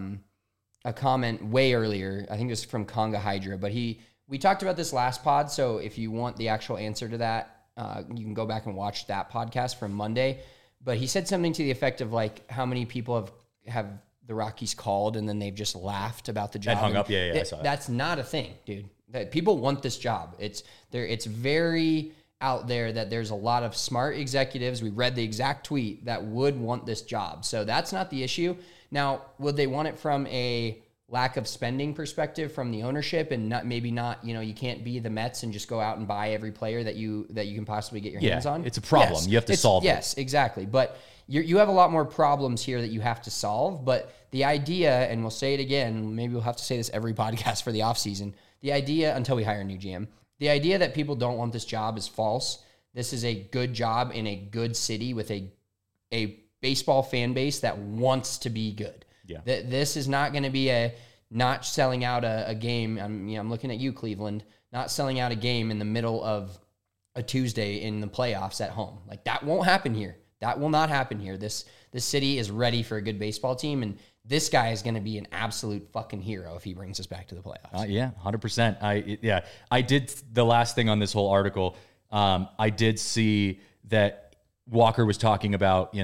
a comment way earlier, I think it was from Conga Hydra, but we talked about this last pod. So if you want the actual answer to that, you can go back and watch that podcast from Monday. But he said something to the effect of like how many people have the Rockies called and then they've just laughed about the job. And hung up. Yeah, I saw that. That's not a thing, dude. That people want this job. It's very out there that there's a lot of smart executives. We read the exact tweet that would want this job. So that's not the issue. Now, would they want it from a lack of spending perspective from the ownership, and maybe not, you can't be the Mets and just go out and buy every player that you can possibly get your hands on? It's a problem. Yes, you have to solve it. Yes, exactly. But you have a lot more problems here that you have to solve. But the idea, and we'll say it again, maybe we'll have to say this every podcast for the offseason, the idea, until we hire a new GM, the idea that people don't want this job is false. This is a good job in a good city with a baseball fan base that wants to be good. Yeah. This is not going to be a not selling out a game. I'm looking at you, Cleveland, not selling out a game in the middle of a Tuesday in the playoffs at home. Like, that won't happen here. That will not happen here. This city is ready for a good baseball team, and this guy is going to be an absolute fucking hero if he brings us back to the playoffs. Yeah, 100%. I did the last thing on this whole article. I did see that Walker was talking about,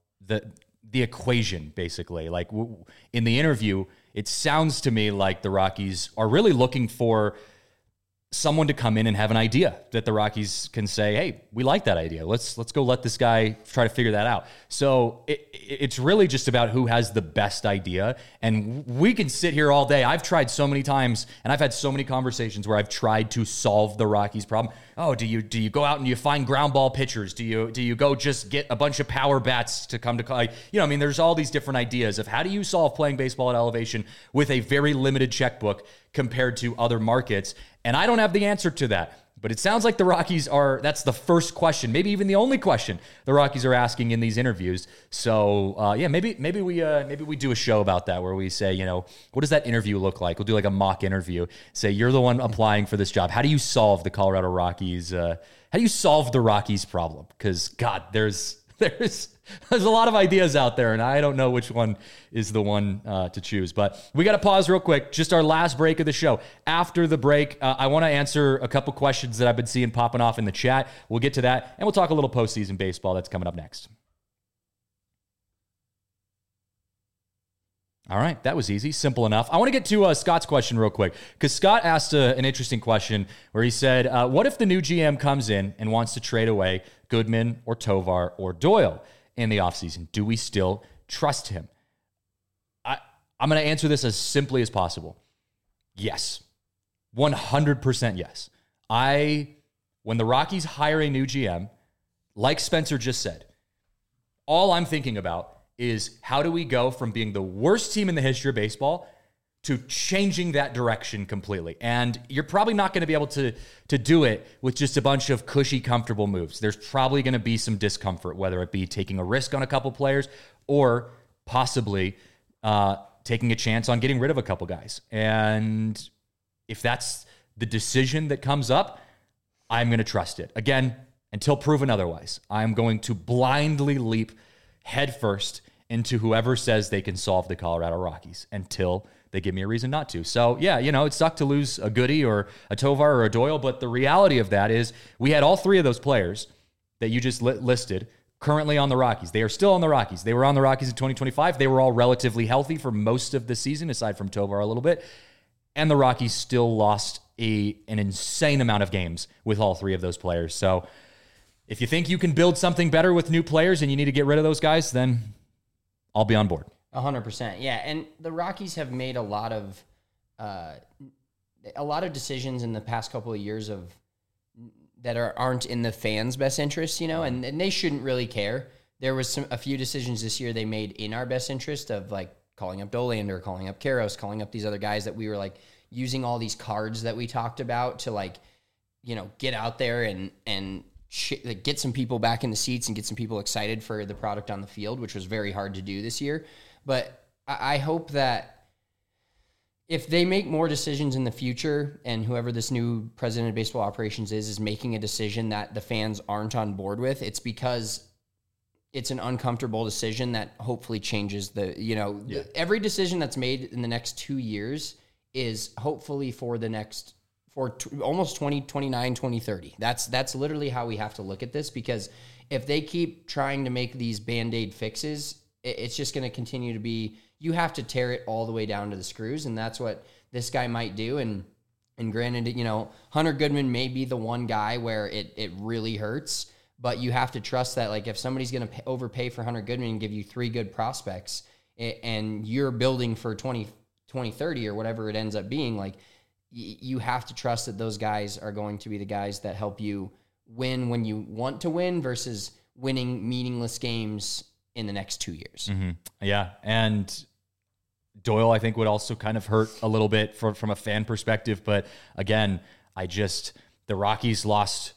the equation, basically. Like, in the interview, it sounds to me like the Rockies are really looking for someone to come in and have an idea that the Rockies can say, hey, we like that idea. Let's go let this guy try to figure that out. So it's really just about who has the best idea. And we can sit here all day. I've tried so many times, and I've had so many conversations where I've tried to solve the Rockies problem. Oh, do you go out and you find ground ball pitchers? Do you go just get a bunch of power bats to come to, there's all these different ideas of how do you solve playing baseball at elevation with a very limited checkbook compared to other markets. And I don't have the answer to that, But it sounds like the Rockies that's the first question, maybe even the only question the Rockies are asking in these interviews. So, maybe we do a show about that where we say, what does that interview look like? We'll do like a mock interview. Say, you're the one applying for this job. How do you solve the Colorado Rockies? How do you solve the Rockies problem? Because, God, there's a lot of ideas out there, and I don't know which one is the one to choose. But we got to pause real quick. Just our last break of the show. After the break, I want to answer a couple questions that I've been seeing popping off in the chat. We'll get to that, and we'll talk a little postseason baseball that's coming up next. All right, that was easy, simple enough. I want to get to Scott's question real quick, because Scott asked an interesting question where he said, what if the new GM comes in and wants to trade away Goodman or Tovar or Doyle in the offseason? Do we still trust him? I'm going to answer this as simply as possible. Yes. 100% yes. When the Rockies hire a new GM, like Spencer just said, all I'm thinking about is how do we go from being the worst team in the history of baseball to changing that direction completely. And you're probably not going to be able to do it with just a bunch of cushy, comfortable moves. There's probably going to be some discomfort, whether it be taking a risk on a couple players or possibly taking a chance on getting rid of a couple guys. And if that's the decision that comes up, I'm going to trust it. Again, until proven otherwise, I'm going to blindly leap headfirst into whoever says they can solve the Colorado Rockies until they give me a reason not to. So, yeah, it sucked to lose a Goody or a Tovar or a Doyle, but the reality of that is we had all three of those players that you just listed currently on the Rockies. They are still on the Rockies. They were on the Rockies in 2025. They were all relatively healthy for most of the season, aside from Tovar a little bit. And the Rockies still lost an insane amount of games with all three of those players. So if you think you can build something better with new players and you need to get rid of those guys, then I'll be on board. 100%. Yeah, and the Rockies have made a lot of decisions in the past couple of years that aren't in the fans' best interest, and they shouldn't really care. There was a few decisions this year they made in our best interest of like calling up Dollander, calling up Karros, calling up these other guys that we were like using all these cards that we talked about to like, get out there and get some people back in the seats and get some people excited for the product on the field, which was very hard to do this year. But I hope that if they make more decisions in the future and whoever this new president of baseball operations is making a decision that the fans aren't on board with, it's because it's an uncomfortable decision that hopefully changes every decision that's made in the next 2 years is hopefully for almost 2029, 2030. That's literally how we have to look at this, because if they keep trying to make these Band-Aid fixes, it's just going to continue to be, you have to tear it all the way down to the screws, and that's what this guy might do. And granted, Hunter Goodman may be the one guy where it really hurts, but you have to trust that, like, if somebody's going to overpay for Hunter Goodman and give you 3 good prospects, and you're building for 2030 or whatever it ends up being, like, you have to trust that those guys are going to be the guys that help you win when you want to win versus winning meaningless games in the next 2 years. Mm-hmm. Yeah. And Doyle, I think, would also kind of hurt a little bit from a fan perspective. But again, the Rockies lost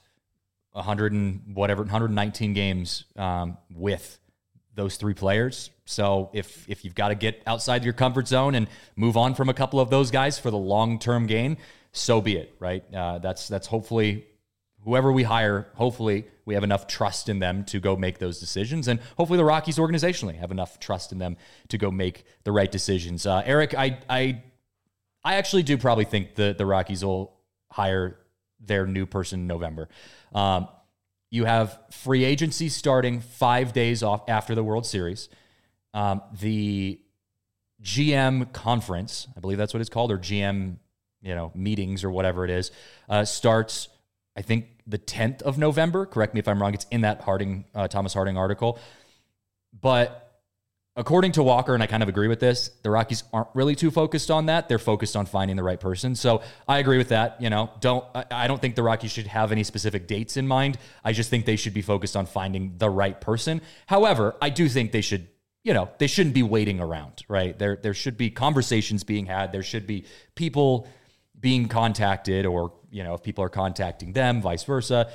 119 games with those 3 players. So if you've got to get outside your comfort zone and move on from a couple of those guys for the long-term gain, so be it, right? That's hopefully whoever we hire, hopefully we have enough trust in them to go make those decisions. And hopefully the Rockies organizationally have enough trust in them to go make the right decisions. Eric, I actually do probably think the Rockies will hire their new person in November. You have free agency starting 5 days off after the World Series. The GM conference, I believe that's what it's called, or GM, meetings or whatever it is, starts, I think, the 10th of November. Correct me if I'm wrong. It's in that Thomas Harding article. But according to Walker, and I kind of agree with this, the Rockies aren't really too focused on that. They're focused on finding the right person. So I agree with that. I don't think the Rockies should have any specific dates in mind. I just think they should be focused on finding the right person. However, I do think they should, they shouldn't be waiting around, right? There should be conversations being had. There should be people being contacted, or if people are contacting them, vice versa.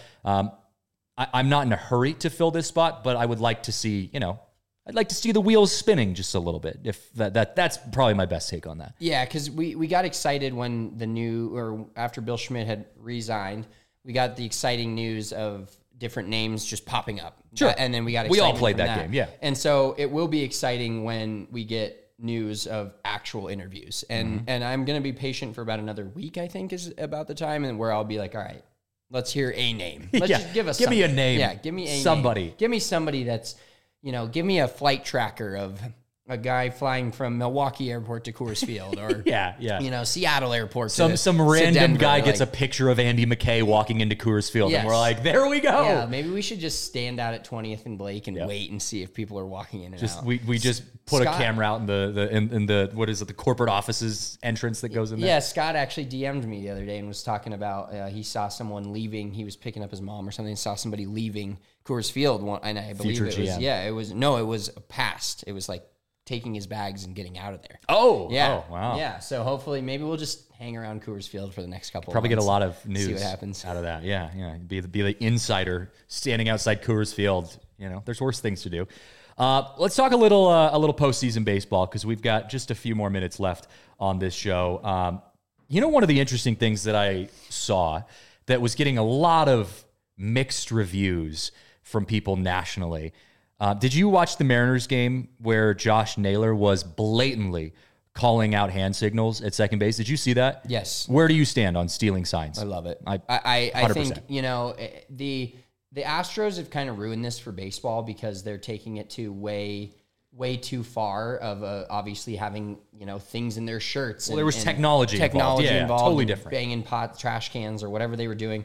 I'm not in a hurry to fill this spot, but I would like to see, I'd like to see the wheels spinning just a little bit. If that's probably my best take on that. Yeah, because we got excited when after Bill Schmidt had resigned, we got the exciting news of different names just popping up. Sure. And then we got we all excited played from that game, yeah. And so it will be exciting when we get news of actual interviews. And I'm going to be patient for about another week, I think is about the time, and where I'll be like, all right, let's hear a name. Let's just give us me a name. Yeah, give me somebody. Name. Give me somebody that's, give me a flight tracker of a guy flying from Milwaukee Airport to Coors Field, or Seattle Airport. Some random guy gets a picture of Andy McKay walking into Coors Field, and we're like, there we go. Yeah, maybe we should just stand out at 20th and Blake and wait and see if people are walking in and out. We just put a camera out in the what is it, the corporate offices entrance that goes in there. Yeah, Scott actually DM'd me the other day and was talking about he saw someone leaving. He was picking up his mom or something and saw somebody leaving Coors Field, and I believe Future it GM. was it was past. It was like taking his bags and getting out of there. Oh, yeah. Oh, wow. Yeah, so hopefully maybe we'll just hang around Coors Field for the next couple Probably of months. get a lot of news See what happens. out of that. Yeah. Be the insider standing outside Coors Field. There's worse things to do. Let's talk a little postseason baseball, because we've got just a few more minutes left on this show. One of the interesting things that I saw that was getting a lot of mixed reviews from people nationally. Did you watch the Mariners game where Josh Naylor was blatantly calling out hand signals at second base? Did you see that? Yes. Where do you stand on stealing signs? I love it. I think, the Astros have kind of ruined this for baseball because they're taking it to way too far of obviously having, things in their shirts. Well, there was technology involved. Yeah, totally different. Banging trash cans or whatever they were doing.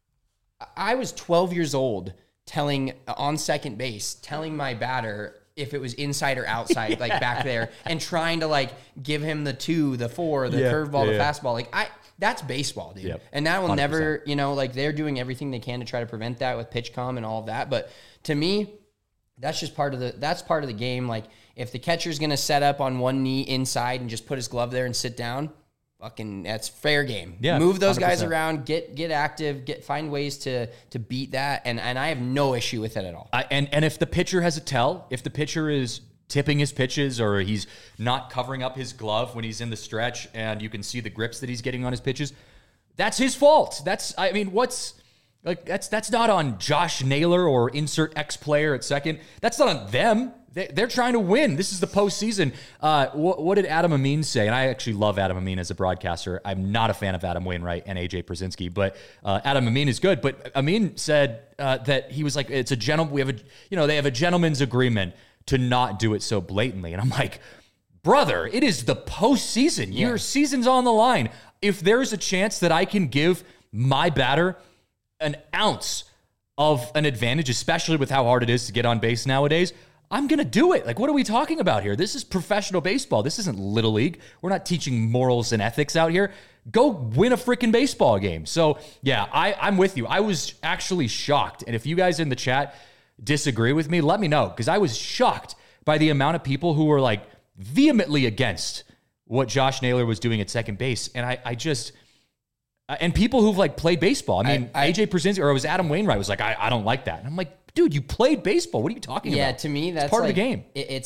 I was 12 years old on second base, telling my batter if it was inside or outside, like back there, and trying to give him the 2, the 4, the curveball, the fastball. That's baseball, dude. Yep. And that will 100%. Never, they're doing everything they can to try to prevent that with PitchCom and all of that. But to me, that's just part of the game. Like, if the catcher's going to set up on one knee inside and just put his glove there and sit down, that's fair game. Yeah, move those 100%. Guys around, get active, find ways to beat that, and I have no issue with it at all. And if the pitcher has a tell, if the pitcher is tipping his pitches or he's not covering up his glove when he's in the stretch and you can see the grips that he's getting on his pitches, that's his fault. That's not on Josh Naylor or insert X player at second. That's not on them. They're trying to win. This is the postseason. What did Adam Amin say? And I actually love Adam Amin as a broadcaster. I'm not a fan of Adam Wainwright and AJ Przinsky, but Adam Amin is good. But Amin said that he was like, it's a they have a gentleman's agreement to not do it so blatantly. And I'm like, brother, it is the postseason. Yeah. Your season's on the line. If there's a chance that I can give my batter an ounce of an advantage, especially with how hard it is to get on base nowadays, I'm going to do it. What are we talking about here? This is professional baseball. This isn't Little League. We're not teaching morals and ethics out here. Go win a freaking baseball game. So, yeah, I'm with you. I was actually shocked. And if you guys in the chat disagree with me, let me know, because I was shocked by the amount of people who were vehemently against what Josh Naylor was doing at second base. And I just... and people who've played baseball. I mean, AJ Przinsky, or it was Adam Wainwright, was like, I don't like that. And I'm like, dude, you played baseball. What are you talking about? Yeah, to me, that's part of the game. It's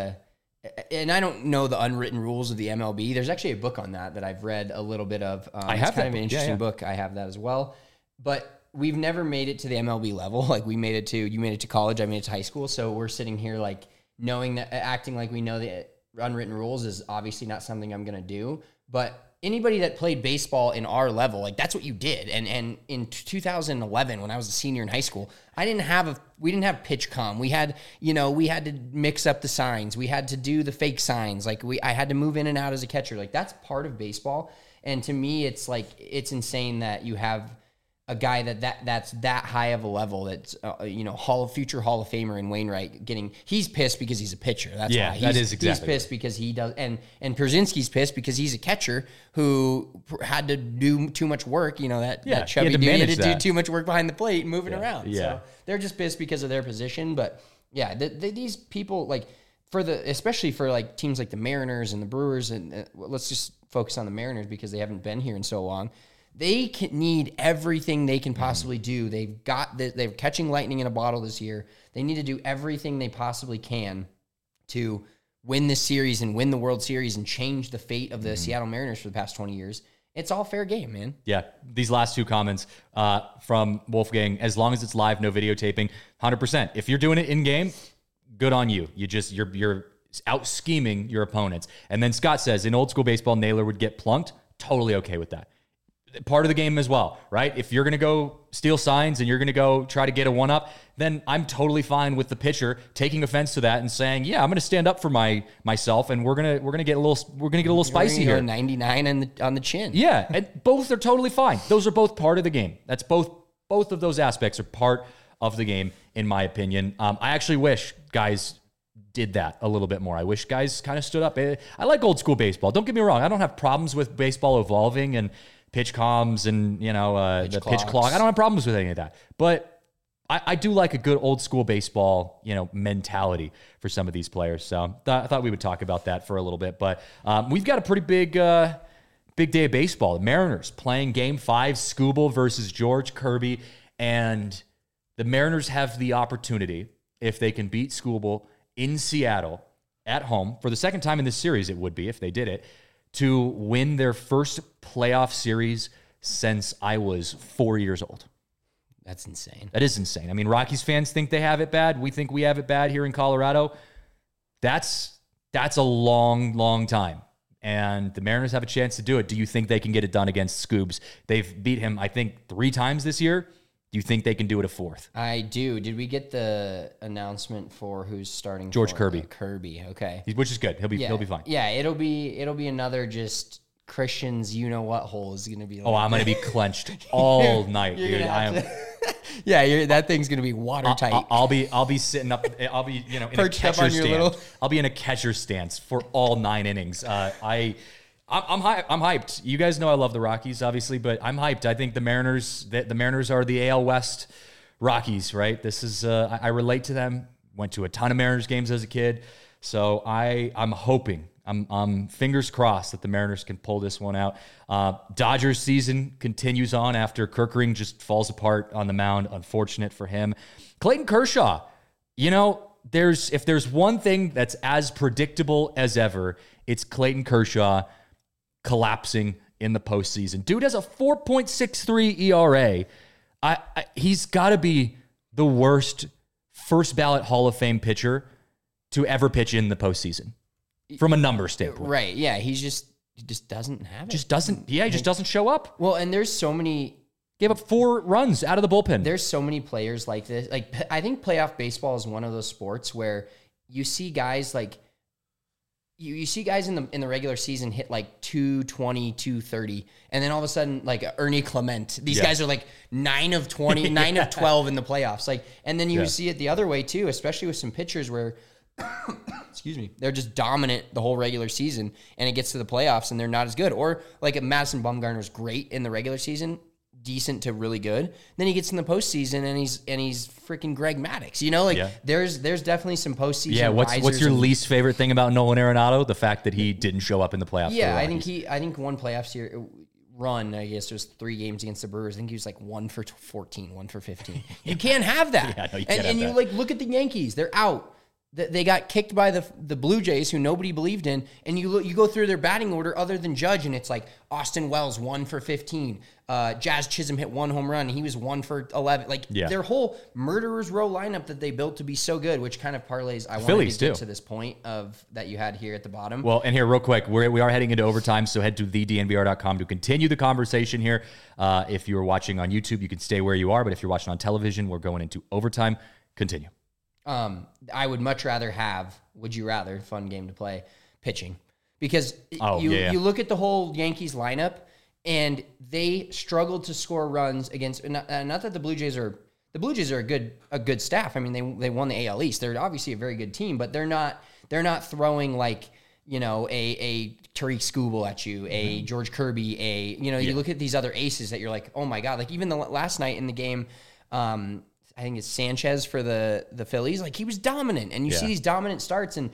and I don't know the unwritten rules of the MLB. There's actually a book on that I've read a little bit of. I have it's kind of an interesting book. I have that as well. But we've never made it to the MLB level. You made it to college. I made it to high school. So we're sitting here knowing that, acting like we know the unwritten rules is obviously not something I'm going to do. But anybody that played baseball in our level, that's what you did. And in 2011, when I was a senior in high school, we didn't have PitchCom. We had to mix up the signs. We had to do the fake signs. I had to move in and out as a catcher. That's part of baseball. And to me, it's insane that you have a guy that's that high of a level, that's future Hall of Famer in Wainwright he's pissed because he's a pitcher. That's why. That is exactly. He's pissed because he does, and Przinsky's pissed because he's a catcher who had to do too much work. That chubby dude had to do too much work behind the plate and moving around. Yeah. So they're just pissed because of their position. But yeah, these people especially for teams like the Mariners and the Brewers, and let's just focus on the Mariners because they haven't been here in so long. They need everything they can possibly do. They're catching lightning in a bottle this year. They need to do everything they possibly can to win this series and win the World Series and change the fate of the Seattle Mariners for the past 20 years. It's all fair game, man. Yeah, these last two comments from Wolfgang, as long as it's live, no videotaping, 100%. If you're doing it in game, good on you. You're out scheming your opponents. And then Scott says, in old school baseball, Naylor would get plunked. Totally okay with that. Part of the game as well, right? If you're going to go steal signs and you're going to go try to get a one-up, then I'm totally fine with the pitcher taking offense to that and saying, "Yeah, I'm going to stand up for myself, and we're going to get a little spicy here." 99 on the chin. Yeah, and both are totally fine. Those are both part of the game. That's both of those aspects are part of the game, in my opinion. I actually wish guys did that a little bit more. I wish guys kind of stood up. I like old school baseball. Don't get me wrong. I don't have problems with baseball evolving and pitch comms and, the pitch clock. I don't have problems with any of that. But I do like a good old school baseball, mentality for some of these players. So I thought we would talk about that for a little bit. But we've got a pretty big day of baseball. The Mariners playing Game 5, Skubal versus George Kirby. And the Mariners have the opportunity, if they can beat Skubal in Seattle at home, for the second time in this series it would be if they did it, to win their first playoff series since I was 4 years old. That's insane. That is insane. I mean, Rockies fans think they have it bad. We think we have it bad here in Colorado. That's a long, long time. And the Mariners have a chance to do it. Do you think they can get it done against Scoobs? They've beat him, I think, 3 times this year. Do you think they can do it a 4th? I do. Did we get the announcement for who's starting? George Kirby. Kirby, okay. Which is good. He'll be fine. Yeah, it'll be another just Christian's you-know-what hole is going to be like. Oh, I'm going to be clenched all night, dude. I am. Yeah, that thing's going to be watertight. I'll be sitting up. I'll be in a catcher stance. I'll be in a catcher stance for all 9 innings. I'm hyped. You guys know I love the Rockies, obviously, but I'm hyped. I think the Mariners are the AL West Rockies, right? This is I relate to them. Went to a ton of Mariners games as a kid, so I'm hoping. I'm fingers crossed that the Mariners can pull this one out. Dodgers season continues on after Kerkering just falls apart on the mound. Unfortunate for him. Clayton Kershaw, if there's one thing that's as predictable as ever, it's Clayton Kershaw collapsing in the postseason. Dude has a 4.63 ERA. He's got to be the worst first ballot Hall of Fame pitcher to ever pitch in the postseason from a number standpoint. Right. Yeah. He just doesn't have it. He just doesn't show up. Well, and there's so many. Gave up 4 runs out of the bullpen. There's so many players like this. Like, I think playoff baseball is one of those sports where you see guys like. You see guys in the regular season hit like 220, 230, and then all of a sudden, like Ernie Clement, these guys are like 9 of 20, 9 of 12 in the playoffs. Like, and then you see it the other way too, especially with some pitchers where, excuse me, they're just dominant the whole regular season, and it gets to the playoffs and they're not as good. Or like Madison Bumgarner's great in the regular season, decent to really good. Then he gets in the postseason and he's freaking Greg Maddux. There's definitely some postseason. Yeah, what's your least favorite thing about Nolan Arenado? The fact that he didn't show up in the playoffs. Yeah, I think one playoff run, I guess it was 3 games against the Brewers. I think he was like 1 for 14, 1 for 15. You can't have that. Yeah, no, you can't have and you that. look at the Yankees. They're out. They got kicked by the Blue Jays, who nobody believed in, and you go through their batting order other than Judge, and it's like Austin Wells 1 for 15, Jazz Chisholm hit 1 home run, and he was 1 for 11. Their whole murderers row lineup that they built to be so good, which kind of parlays. I wanted to get to this point of that you had here at the bottom. Well, and here real quick, we are heading into overtime, so head to thednvr.com to continue the conversation here. If you're watching on YouTube, you can stay where you are, but if you're watching on television, we're going into overtime. Continue. I would much rather have, would you rather, fun game to play, pitching. Because you look at the whole Yankees lineup, and they struggled to score runs against, not that the Blue Jays are a good staff. I mean, they won the AL East. They're obviously a very good team, but they're not throwing like, a Tariq Skubal at you, a George Kirby, you look at these other aces that you're like, oh my God, like even the last night in the game, I think it's Sanchez for the Phillies. Like, he was dominant, and you see these dominant starts, and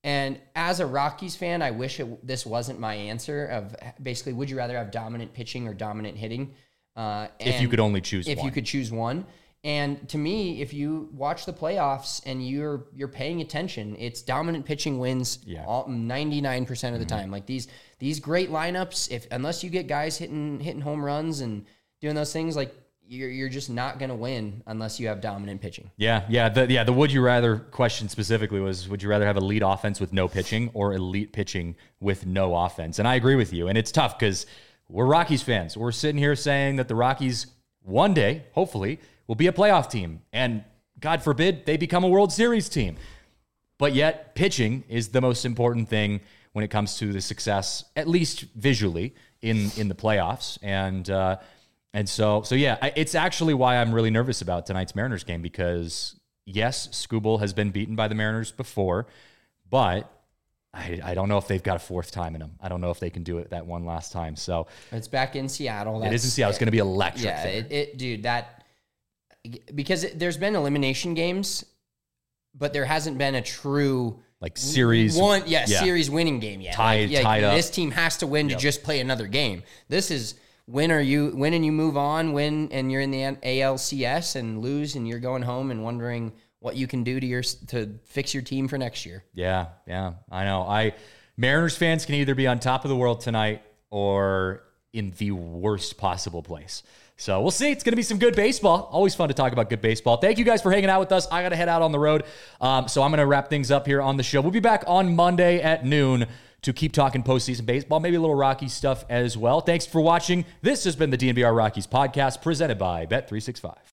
And as a Rockies fan, I wish this wasn't my answer of basically, would you rather have dominant pitching or dominant hitting? If you could only choose one. If you could choose one. And to me, if you watch the playoffs and you're paying attention, it's dominant pitching wins 99% of the time. Like these great lineups, unless you get guys hitting home runs and doing those things, like you're just not going to win unless you have dominant pitching. The would you rather question specifically was, would you rather have elite offense with no pitching or elite pitching with no offense? And I agree with you. And it's tough because we're Rockies fans. We're sitting here saying that the Rockies one day, hopefully, will be a playoff team. And God forbid they become a World Series team. But yet pitching is the most important thing when it comes to the success, at least visually, in the playoffs. And so it's actually why I'm really nervous about tonight's Mariners game, because yes, Skubal has been beaten by the Mariners before, but I don't know if they've got a fourth time in them. I don't know if they can do it that one last time. So it's back in Seattle. It is in Seattle. It's going to be electric. Yeah, because there's been elimination games, but there hasn't been a true series series winning game yet. Tied up. This team has to win to just play another game. This is win and you move on, and you're in the ALCS and lose and you're going home and wondering what you can do to fix your team for next year. Yeah, I know. Mariners fans can either be on top of the world tonight or in the worst possible place. So we'll see. It's going to be some good baseball. Always fun to talk about good baseball. Thank you guys for hanging out with us. I got to head out on the road. So I'm going to wrap things up here on the show. We'll be back on Monday at noon to keep talking postseason baseball, maybe a little Rockies stuff as well. Thanks for watching. This has been the DNVR Rockies podcast presented by Bet365.